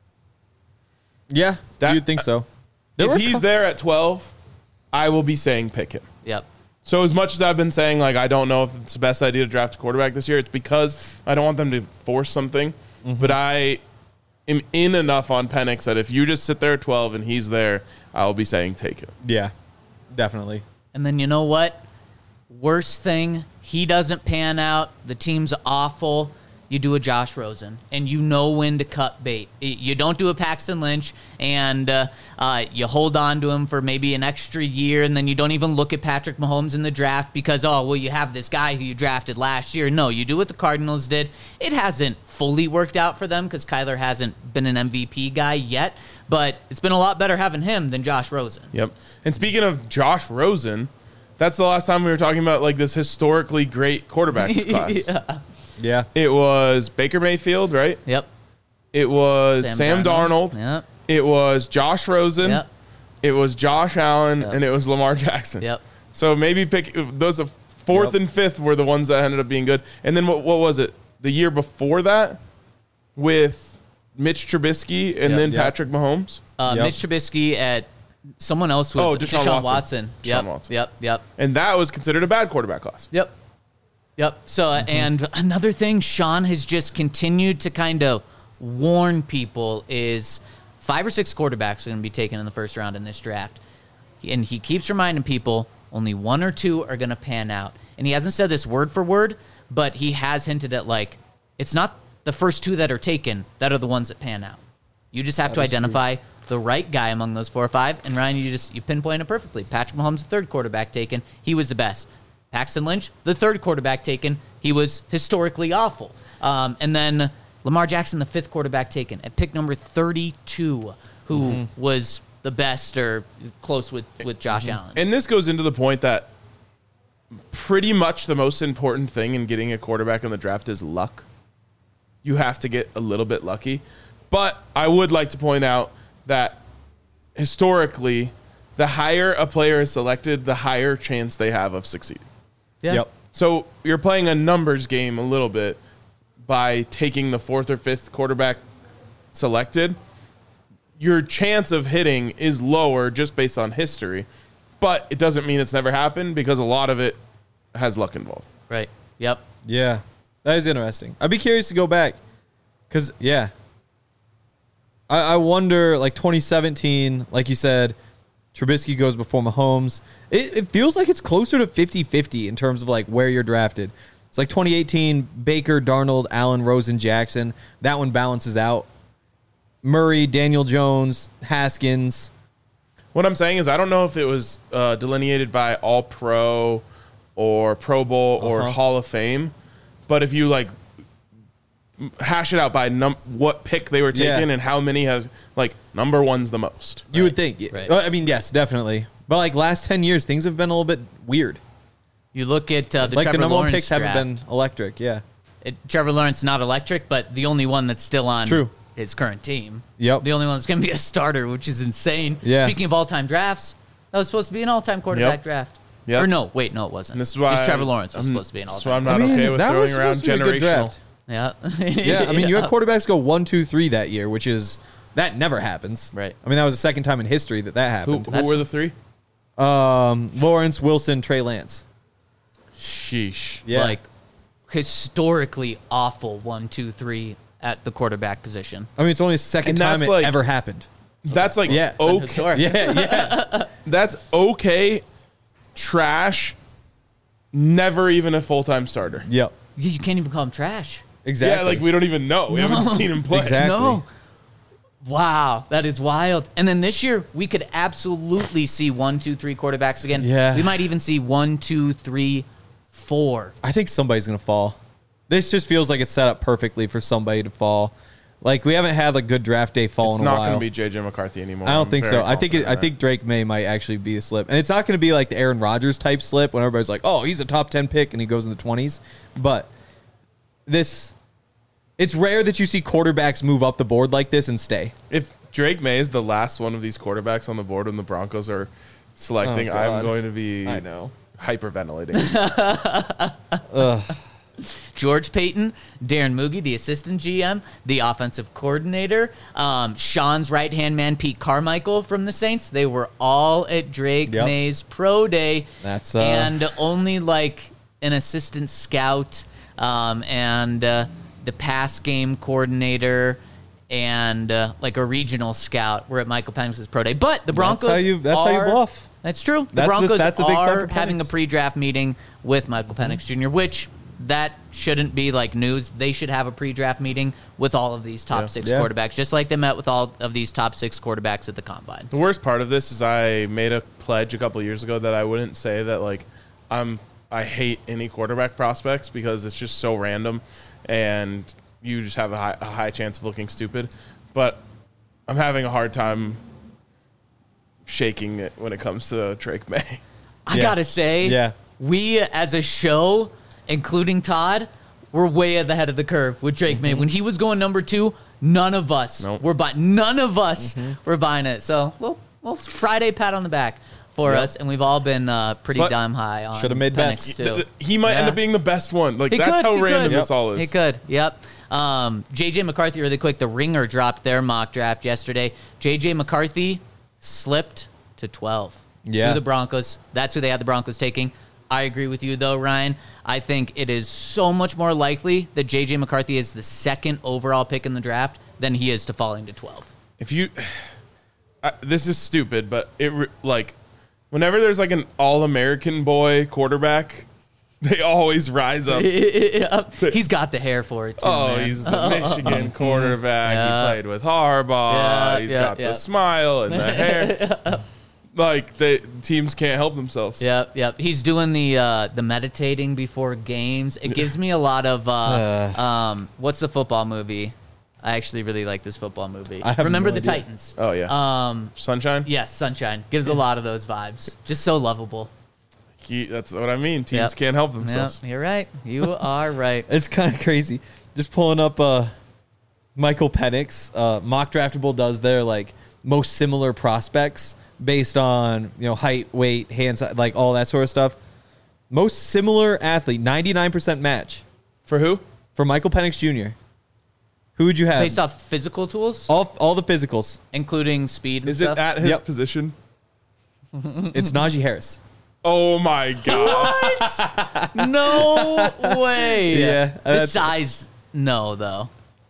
Yeah, you'd think so. If he's there at 12, I will be saying pick him. Yep. So as much as I've been saying, like, I don't know if it's the best idea to draft a quarterback this year, it's because I don't want them to force something. But I am in enough on Penix that if you just sit there at 12 and he's there, I'll be saying take him. Yeah, definitely. And then you know what? Worst thing, he doesn't pan out. The team's awful. You do a Josh Rosen, and you know when to cut bait. You don't do a Paxton Lynch, and you hold on to him for maybe an extra year, and then you don't even look at Patrick Mahomes in the draft because, oh, well, you have this guy who you drafted last year. No, you do what the Cardinals did. It hasn't fully worked out for them because Kyler hasn't been an MVP guy yet, but it's been a lot better having him than Josh Rosen. Yep. And speaking of Josh Rosen, that's the last time we were talking about, like, this historically great quarterbacks class. Yeah. It was Baker Mayfield, right? Yep. It was Sam Darnold. Yep. It was Josh Rosen. Yep. It was Josh Allen, Yep. and it was Lamar Jackson. Yep. So maybe pick those. Fourth and fifth were the ones that ended up being good. And then what was it? The year before that with Mitch Trubisky and Yep. then Yep. Patrick Mahomes. Mitch Trubisky at someone else was Deshaun Watson. Yep. Deshaun Watson. Yep. And that was considered a bad quarterback class. Yep. So, and another thing Sean has just continued to kind of warn people is 5 or 6 quarterbacks are going to be taken in the first round in this draft. And he keeps reminding people only 1 or 2 are going to pan out. And he hasn't said this word for word, but he has hinted at, like, it's not the first 2 that are taken that are the ones that pan out. You just have to identify the right guy among those 4 or 5. And Ryan, you pinpoint it perfectly. Patrick Mahomes, the third quarterback taken. He was the best. Paxton Lynch, the third quarterback taken. He was historically awful. And then Lamar Jackson, the 5th quarterback taken at pick number 32, who was the best or close with Josh Allen. And this goes into the point that pretty much the most important thing in getting a quarterback in the draft is luck. You have to get a little bit lucky. But I would like to point out that historically, the higher a player is selected, the higher chance they have of succeeding. Yeah. Yep. So you're playing a numbers game a little bit by taking the 4th or 5th quarterback selected. Your chance of hitting is lower just based on history, but it doesn't mean it's never happened because a lot of it has luck involved. Right. Yep. Yeah. That is interesting. I'd be curious to go back because, yeah. I wonder, like 2017, like you said, Trubisky goes before Mahomes. It feels like it's closer to 50-50 in terms of like where you're drafted. It's like 2018, Baker, Darnold, Allen, Rosen, Jackson. That one balances out. Murray, Daniel Jones, Haskins. What I'm saying is I don't know if it was delineated by All-Pro or Pro Bowl or Hall of Fame, but if you like hash it out by what pick they were taking and how many have, like, number 1's the most. You would think. Right. I mean, yes, definitely. But like last 10 years, things have been a little bit weird. You look at the Like Trevor the number 1 Lawrence picks draft. haven't been electric. Yeah. Trevor Lawrence not electric, but the only one that's still on True. his current team. Yep. The only one that's going to be a starter, which is insane. Yeah. Speaking of all-time drafts, that was supposed to be an all-time quarterback draft. Yep. Or no, wait, no, it wasn't. And this is why just Trevor Lawrence was supposed to be an So I'm all-time. not okay with that was throwing around supposed to be a good generational. draft. Yeah. Yeah, I mean, you had quarterbacks go 1, 2, 3 that year, which is that never happens. Right. I mean, that was the second time in history that Who happened. were the 3? Lawrence, Wilson, Trey Lance. Sheesh. Yeah. Like, historically awful 1, 2, 3 at the quarterback position. I mean, it's only the second And time that's it like- ever happened. That's like Yeah. okay. Historic. Yeah. That's okay. Trash. Never even a full-time starter. Yep. You can't even call him trash. Exactly. Yeah, like we don't even know. We haven't seen him play. Exactly. No. Wow, that is wild. And then this year, we could absolutely see 1, 2, 3 quarterbacks again. Yeah. We might even see 1, 2, 3, 4. I think somebody's going to fall. This just feels like it's set up perfectly for somebody to fall. Like, we haven't had a good draft day fall It's in a not while. going to be J.J. McCarthy anymore. I don't I'm think very so. I think confident Drake May might actually be a slip, and it's not going to be like the Aaron Rodgers type slip when everybody's like, "Oh, he's a top 10 pick," and he goes in the 20s. But it's rare that you see quarterbacks move up the board like this and stay. if Drake May is the last one of these quarterbacks on the board when the Broncos are selecting, Oh, God. I'm going to be I know. hyperventilating. George Payton, Darren Moogie, the assistant GM, the offensive coordinator, Sean's right-hand man, Pete Carmichael from the Saints. They were all at Drake Yep. May's pro day. That's and only like an assistant scout and the pass game coordinator and like a regional scout were at Michael Penix's pro day. But the Broncos That's how you bluff. That's true. The That's Broncos a big sign are for having a Penix. pre-draft meeting with Michael Penix Jr., which that shouldn't be like news. They should have a pre-draft meeting with all of these top six Yeah. quarterbacks, just like they met with all of these top six quarterbacks at the Combine. The worst part of this is I made a pledge a couple of years ago that I wouldn't say that like I hate any quarterback prospects because it's just so random and you just have a high chance of looking stupid. But I'm having a hard time shaking it when it comes to Drake May. I Yeah. gotta say, Yeah. we as a show, including Todd, were way at the head of the curve with Drake May. When he was going number 2, none of us Nope. were buying. None of us were buying it. So, well, Friday pat on the back for us, and we've all been pretty But- damn high on. Should've made Penix, bets. too. He might end Yeah. up being the best one. Like He that's could, how he random could. this all is. He could, yep. JJ McCarthy, really quick. The Ringer dropped their mock draft yesterday. JJ McCarthy slipped to 12 Yeah. to the Broncos. That's who they had the Broncos taking. I agree with you, though, Ryan. I think it is so much more likely that JJ McCarthy is the second overall pick in the draft than he is to falling to 12. If you, this is stupid, but like, whenever there's like an all-American boy quarterback, they always rise up. Yep. He's got the hair for it, too, Oh, man. he's the Michigan quarterback. Yeah. He played with Harbaugh. Yeah, He's yeah, got yeah. the smile and the hair. Like teams can't help themselves. Yep. He's doing the meditating before games. It gives me a lot of what's the football movie? I actually really like this football movie. I have Remember no the idea. Titans. Oh yeah. Sunshine. Yes, Sunshine gives a lot of those vibes. Just so lovable. That's what I mean. Teams Yep. can't help Yep, themselves. you're right. You are right. It's kind of crazy. Just pulling up Michael Penix. Mock Draftable does their like most similar prospects based on height, weight, hand size, like all that sort of stuff. Most similar athlete, 99% match For who? for Michael Penix Jr. Who would you have? Based off physical tools, all the physicals. including speed and Is stuff. it at his Yep. position? It's Najee Harris. Oh my god. No way. Yeah, The that's- size, no, though.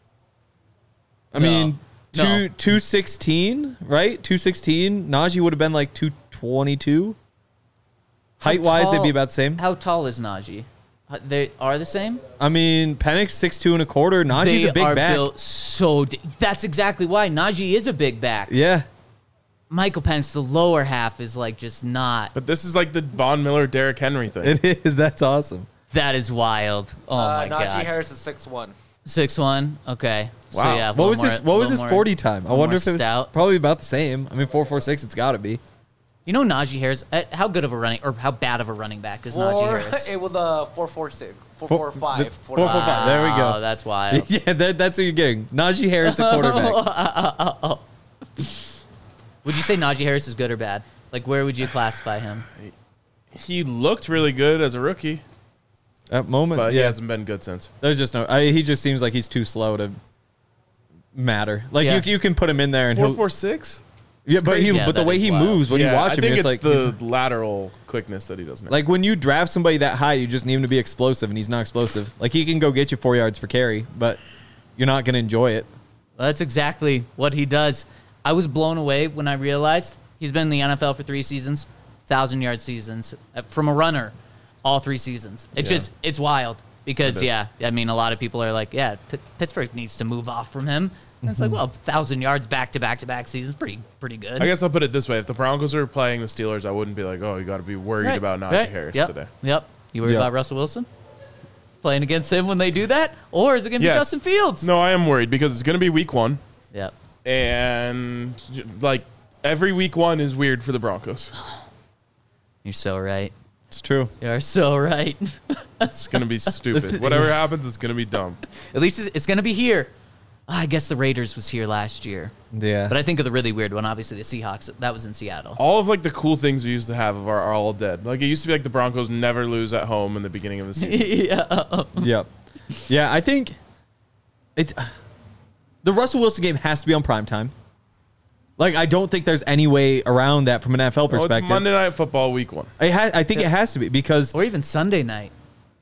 I mean, No. 216, right? 216. Najee would have been like 222. Height wise, they'd tall- be about the same. How tall is Najee? They are the same? I mean, Penix 6'2 and a quarter. Najee's They a big are back. built so. That's exactly why Najee is a big back. Yeah. Michael Penix, the lower half is like just not. But this is like the Von Miller, Derrick Henry thing. It is. That's awesome. That is wild. Oh my Najee god. Harris is 6'1". 6'1". Okay. So Wow. yeah. What was his 40 time? I wonder if it was stout. probably about the same. I mean, 4.46. It's got to be. You know Najee Harris. How good of a running or how bad of a running back is Najee Harris? It was a 4.46, 4.45, 4.45. There we go. Oh, that's wild. Yeah, that's what you're getting. Najee Harris, a quarterback. Would you say Najee Harris is good or bad? Like, where would you classify him? He looked really good as a rookie, At moment, but he yeah. hasn't been good since. There's just no. He just seems like he's too slow to matter. Like Yeah. you can put him in there and he'll. 4.46. Yeah, but crazy. Yeah, but the that way is he wild. moves when you watch him, I think it's it's like the lateral quickness that he doesn't have. like when you draft somebody that high, you just need him to be explosive, and he's not explosive. Like he can go get you 4 yards per carry, but you're not going to enjoy it. Well, that's exactly what he does. I was blown away when I realized he's been in the NFL for 3 seasons, 1,000-yard seasons from a runner, all 3 seasons. It's it's wild because, It is. yeah, I mean, a lot of people are like, yeah, Pittsburgh needs to move off from him. And it's like, well, 1,000 yards back-to-back-to-back seasons, pretty good. I guess I'll put it this way: if the Broncos are playing the Steelers, I wouldn't be like, "Oh, you got to be worried Right, about Najee right. Harris Yep, today." Yep. You worried Yep. about Russell Wilson? Playing against him when they do that? Or is it going to be Yes. Justin Fields? No, I am worried because it's going to be Week 1, Yep. and like every Week 1 is weird for the Broncos. You're so right. It's true. You're so right. It's going to be stupid. Whatever happens, it's going to be dumb. At least it's going to be here. I guess the Raiders was here last year. Yeah. But I think of the really weird one, obviously the Seahawks. That was in Seattle. All of like the cool things we used to have are all dead. Like it used to be like the Broncos never lose at home in the beginning of the season. Yeah. Yep. Yeah, I think it's the Russell Wilson game has to be on primetime. Like, I don't think there's any way around that from an NFL Well, perspective. it's Monday Night Football week 1. I think it has to be because Or even Sunday night.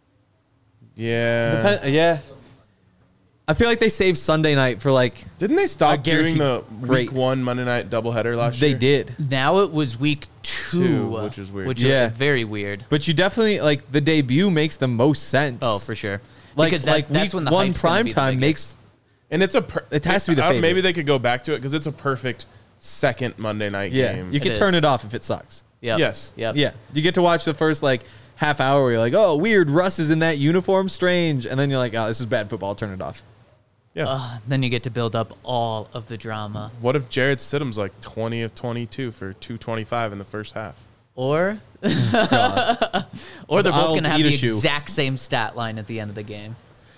Yeah. yeah. I feel like they saved Sunday night for like Didn't they stop doing guarantee- the Great. week 1 Monday Night doubleheader last they year? did. Now it was week 2, which is weird. Which Yeah. is very weird. But you definitely like the debut makes the most sense. Oh, for sure. Like because like that's week when the one hype's gonna be the primetime biggest. makes And it's It has to be the favorite. Maybe they could go back to it because it's a perfect second Monday night game. You can It turn is. it off if it sucks. Yep. Yes. Yep. Yeah, you get to watch the first like half hour where you're like, oh, weird, Russ is in that uniform, strange, and then you're like, oh, this is bad football. Turn it off. Yeah. Then you get to build up all of the drama. What if Jared Stidham's like 20 of 22 for 225 in the first half? Or God. or they're both I'll going to have eat the a shoe. exact same stat line at the end of the game.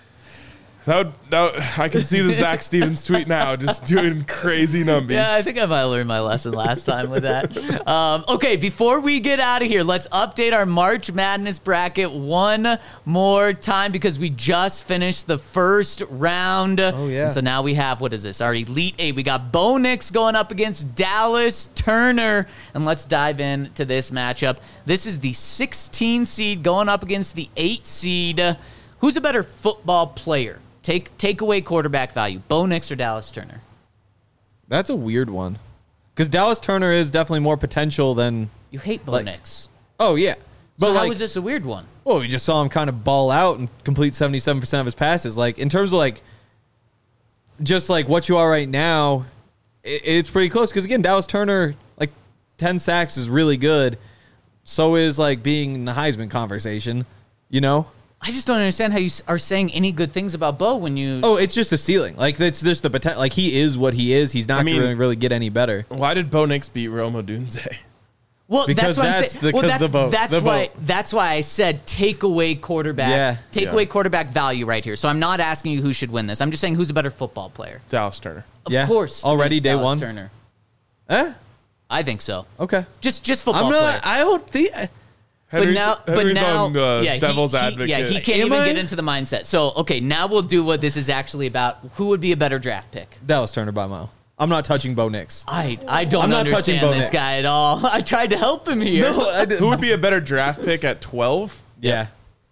I can see the Zach Stevens tweet now, just doing crazy numbers. Yeah, I think I might have learned my lesson last time with that. Okay, before we get out of here, let's update our March Madness bracket one more time because we just finished the first round. Oh, yeah. And so now we have, what is this? Our Elite Eight. We got Bo Nix going up against Dallas Turner. And let's dive into this matchup. This is the 16 seed going up against the 8 seed. Who's a better football player? Take away quarterback value. Bo Nix or Dallas Turner? That's a weird one, because Dallas Turner is definitely more potential than. You hate Bo Like, Nix. Oh yeah, but So like, how is this a weird one? well, we just saw him kind of ball out and complete 77% of his passes. Like in terms of like, just like what you are right now, it's pretty close. Because again, Dallas Turner, like 10 sacks is really good. So is like being in the Heisman conversation, you know. I just don't understand how you are saying any good things about Bo when you. Oh, it's just the ceiling. Like it's just the potential. Like he is what he is. He's not mean- going to really get any better. Why did Bo Nix beat Rome Odunze? Well, Because that's what I'm that's saying. Well, because the vote. that's The why. vote. That's why I said take away quarterback. Yeah. Take Yeah. away quarterback value right here. So I'm not asking you who should win this. I'm just saying who's a better football player. Dallas Turner. Of Yeah. course. Already it's day Dallas one? Turner. Eh? I think so. Okay. Just football I'm player. not. I don't think. But now, on, yeah, Devil's he, Advocate. Yeah, he can't Am even I? get into the mindset. So, okay, now we'll do what this is actually about. Who would be a better draft pick? Dallas Turner by a mile. I'm not touching Bo Nix. I don't I'm not touching understand Bo this Nix. guy at all. I tried to help him here. Who would be a better draft pick at 12? Yeah.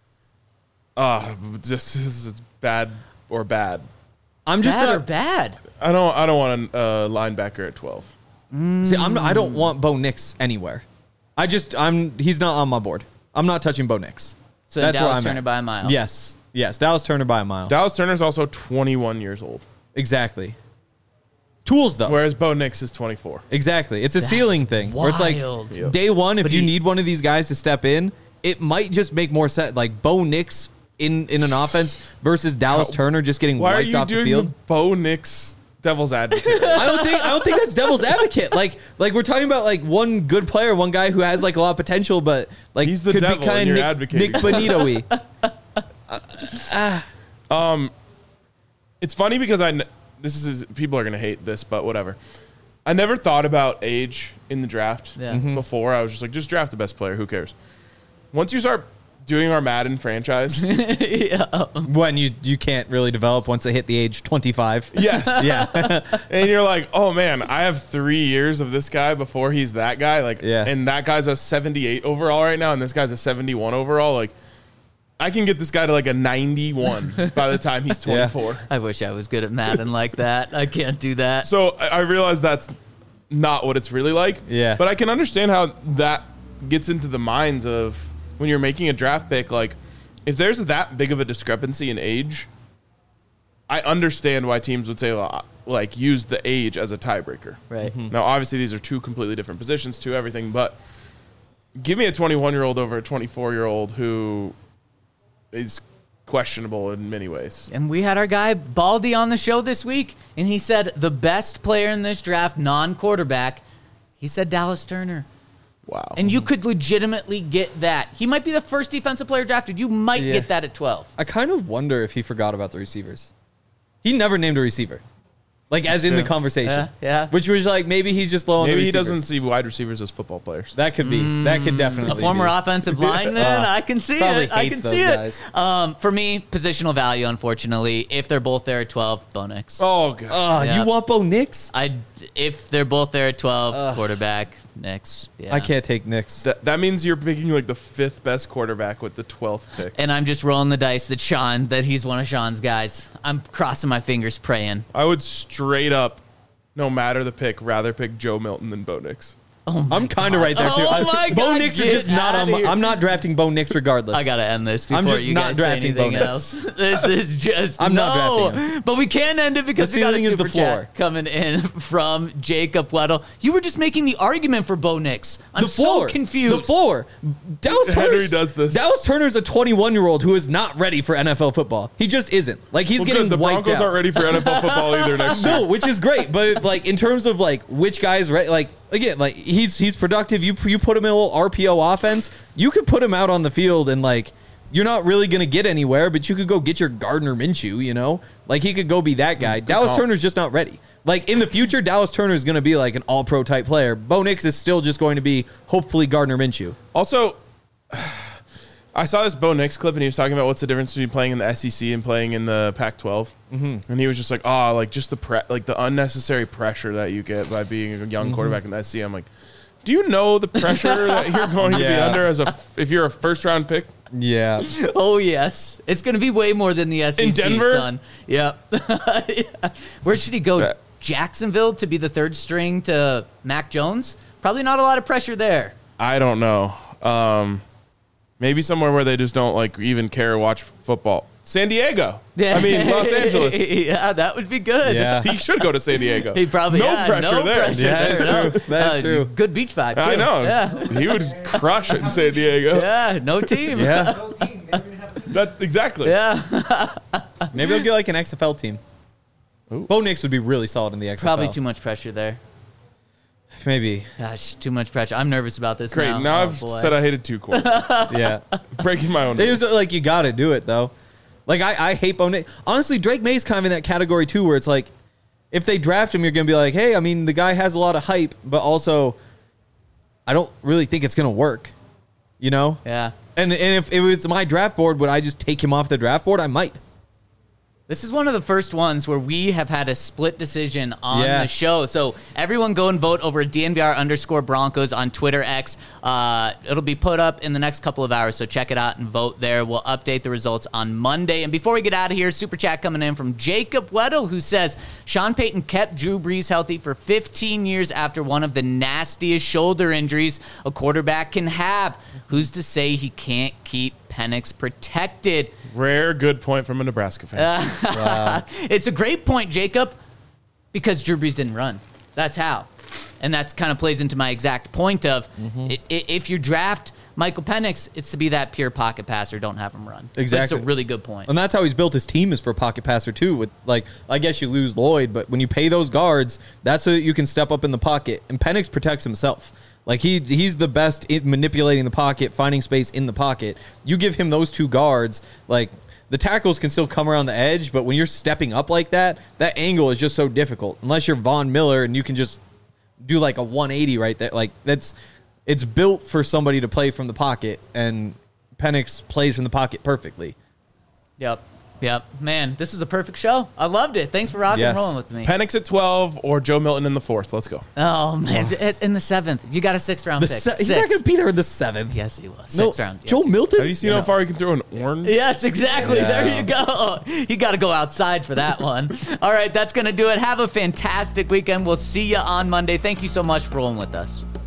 Just this is bad or bad. I'm just Bad or not. bad? I don't want a linebacker at 12. See, I don't want Bo Nix anywhere. He's not on my board. I'm not touching Bo Nix. So That's where Dallas I'm Turner at. by a mile. Yes. Dallas Turner by a mile. Dallas Turner's also 21 years old, Exactly. Tools though. whereas Bo Nix is 24. Exactly. It's a ceiling thing where it's like wild. Yep. day one, if But you he- need one of these guys to step in, it might just make more sense. Like Bo Nix in an offense versus Dallas Turner just getting Why are wiped you off the doing field. the Bo Nix Devil's Advocate? I don't think that's devil's advocate. Like we're talking about like one good player, one guy who has like a lot of potential, but like He's the could devil be kind and you're of advocating. Nick Bonito-y. It's funny because people are gonna hate this, but whatever. I never thought about age in the draft Yeah. Mhm. before. I was just like, just draft the best player. Who cares? Once you start doing our Madden franchise, When you can't really develop once they hit the age 25. yes, Yeah. and you're like, oh man, I have 3 years of this guy before he's that guy. Like, Yeah. and that guy's a 78 overall right now, and this guy's a 71 overall. Like, I can get this guy to like a 91 by the time he's 24. I wish I was good at Madden like that. I can't do that. So I realize that's not what it's really like. Yeah. But I can understand how that gets into the minds of when you're making a draft pick. Like, if there's that big of a discrepancy in age, I understand why teams would say, like, use the age as a tiebreaker. Right. Now, obviously, these are two completely different positions to everything, but give me a 21-year-old over a 24-year-old who is questionable in many ways. And we had our guy Baldy on the show this week, and he said the best player in this draft, non-quarterback, he said Dallas Turner. Wow. And you could legitimately get that. He might be the first defensive player drafted. You might Yeah. get that at 12. I kind of wonder if he forgot about the receivers. He never named a receiver. Like, as in the true. conversation. Yeah. Which was like, maybe he's just low on the Maybe he receivers. doesn't see wide receivers as football players. That could be. That could definitely A former be. offensive lineman, I can see Probably it. I hates can those see guys. it. For me, positional value, unfortunately, if they're both there at 12, Bo Nix. Oh, God. Yeah. You want Bo Nix? If they're both there at 12, quarterback, Nix. Yeah. I can't take Nix. That means you're picking like the 5th best quarterback with the 12th pick. And I'm just rolling the dice that he's one of Sean's guys. I'm crossing my fingers, praying. I would straight up, no matter the pick, rather pick Joe Milton than Bo Nix. I'm kind of right there too. Oh my Bo God, Nix is get just not on. outta here. I'm not drafting Bo Nix regardless. I gotta end this before I'm just you not guys say drafting anything Bo Nix. else. This is just I'm not drafting him. But we can end it because The we got a ceiling is super the floor. chat coming in from Jacob Weddle. You were just making the argument for Bo Nix. I'm The floor. so confused. The floor. Dallas Henry Turner's, does this. Dallas Turner's a 21-year-old who is not ready for NFL football. He just isn't. Like, he's Well, getting good. The wiped Broncos out. aren't ready for NFL football either next year. No, which is great, but like in terms of like which guys, right? Like again, like he's productive. You put him in a little RPO offense, you could put him out on the field and like you're not really gonna get anywhere, but you could go get your Gardner Minshew. You know, like he could go be that guy. Dallas call. Turner's just not ready. Like in the future, Dallas Turner is gonna be like an All-Pro type player. Bo Nix is still just going to be hopefully Gardner Minshew. Also, I saw this Bo Nix clip, and he was talking about what's the difference between playing in the SEC and playing in the Pac-12. Mm-hmm. And he was just like, "Oh, like just the unnecessary pressure that you get by being a young quarterback in the SEC." I'm like, "Do you know the pressure that you're going to be Yeah. under if you're a first-round pick?" Yeah. Oh, yes. It's going to be way more than the SEC, In Denver? son. Yep. Yeah. Where should he go? Yeah. Jacksonville to be the third string to Mac Jones? Probably not a lot of pressure there. I don't know. Maybe somewhere where they just don't like even care or watch football. San Diego. I mean, Los Angeles. Yeah, that would be good. Yeah. He should go to San Diego. He probably no pressure there. Pressure Yeah, there, that's no. true. That's true. Good beach vibe, too. I know. Yeah. He would crush it in San Diego. Yeah, no team. Yeah. No team. They don't even have a team. That's exactly. Yeah. Maybe he'll get like an XFL team. Ooh. Bo Nix would be really solid in the XFL. Probably too much pressure there. Maybe. Gosh, too much pressure. I'm nervous about this Great. now. Now Oh, I've boy. said I hated two quarterbacks. Yeah. Breaking my own It rules. was like you got to do it though. Like I hate Bo Nix. Honestly, Drake May's kind of in that category too, where it's like, if they draft him, you're gonna be like, hey, I mean, the guy has a lot of hype, but also, I don't really think it's gonna work. You know? Yeah. And if it was my draft board, would I just take him off the draft board? I might. This is one of the first ones where we have had a split decision on Yeah. the show. So everyone go and vote over DNVR_Broncos on Twitter X. It'll be put up in the next couple of hours, so check it out and vote there. We'll update the results on Monday. And before we get out of here, super chat coming in from Jacob Weddle, who says, Sean Payton kept Drew Brees healthy for 15 years after one of the nastiest shoulder injuries a quarterback can have. Who's to say he can't keep Penix protected? Rare good point from a Nebraska fan. It's a great point, Jacob, because Drew Brees didn't run. That's how. And that's kind of plays into my exact point of if you draft Michael Penix, it's to be that pure pocket passer. Don't have him run. Exactly. That's a really good point. And that's how he's built his team, is for pocket passer too. With like, I guess you lose Lloyd, but when you pay those guards, that's so that you can step up in the pocket. And Penix protects himself. Like he's the best at manipulating the pocket, finding space in the pocket. You give him those two guards, like the tackles can still come around the edge, but when you're stepping up like that, that angle is just so difficult. Unless you're Von Miller and you can just do like a 180 right there. Like it's built for somebody to play from the pocket, and Penix plays from the pocket perfectly. Yep. Man, this is a perfect show. I loved it. Thanks for rocking and Yes. rolling with me. Penix at 12 or Joe Milton in the 4th. Let's go. Oh, man. In the 7th. You got a 6th round pick. He's not Sixth. going to be there in the 7th. Yes, he was. No, 6th round. Yes, Joe he was. Milton? Have you seen how far he can throw an orange? Yes, exactly. Yeah. There you go. You got to go outside for that one. All right, that's going to do it. Have a fantastic weekend. We'll see you on Monday. Thank you so much for rolling with us.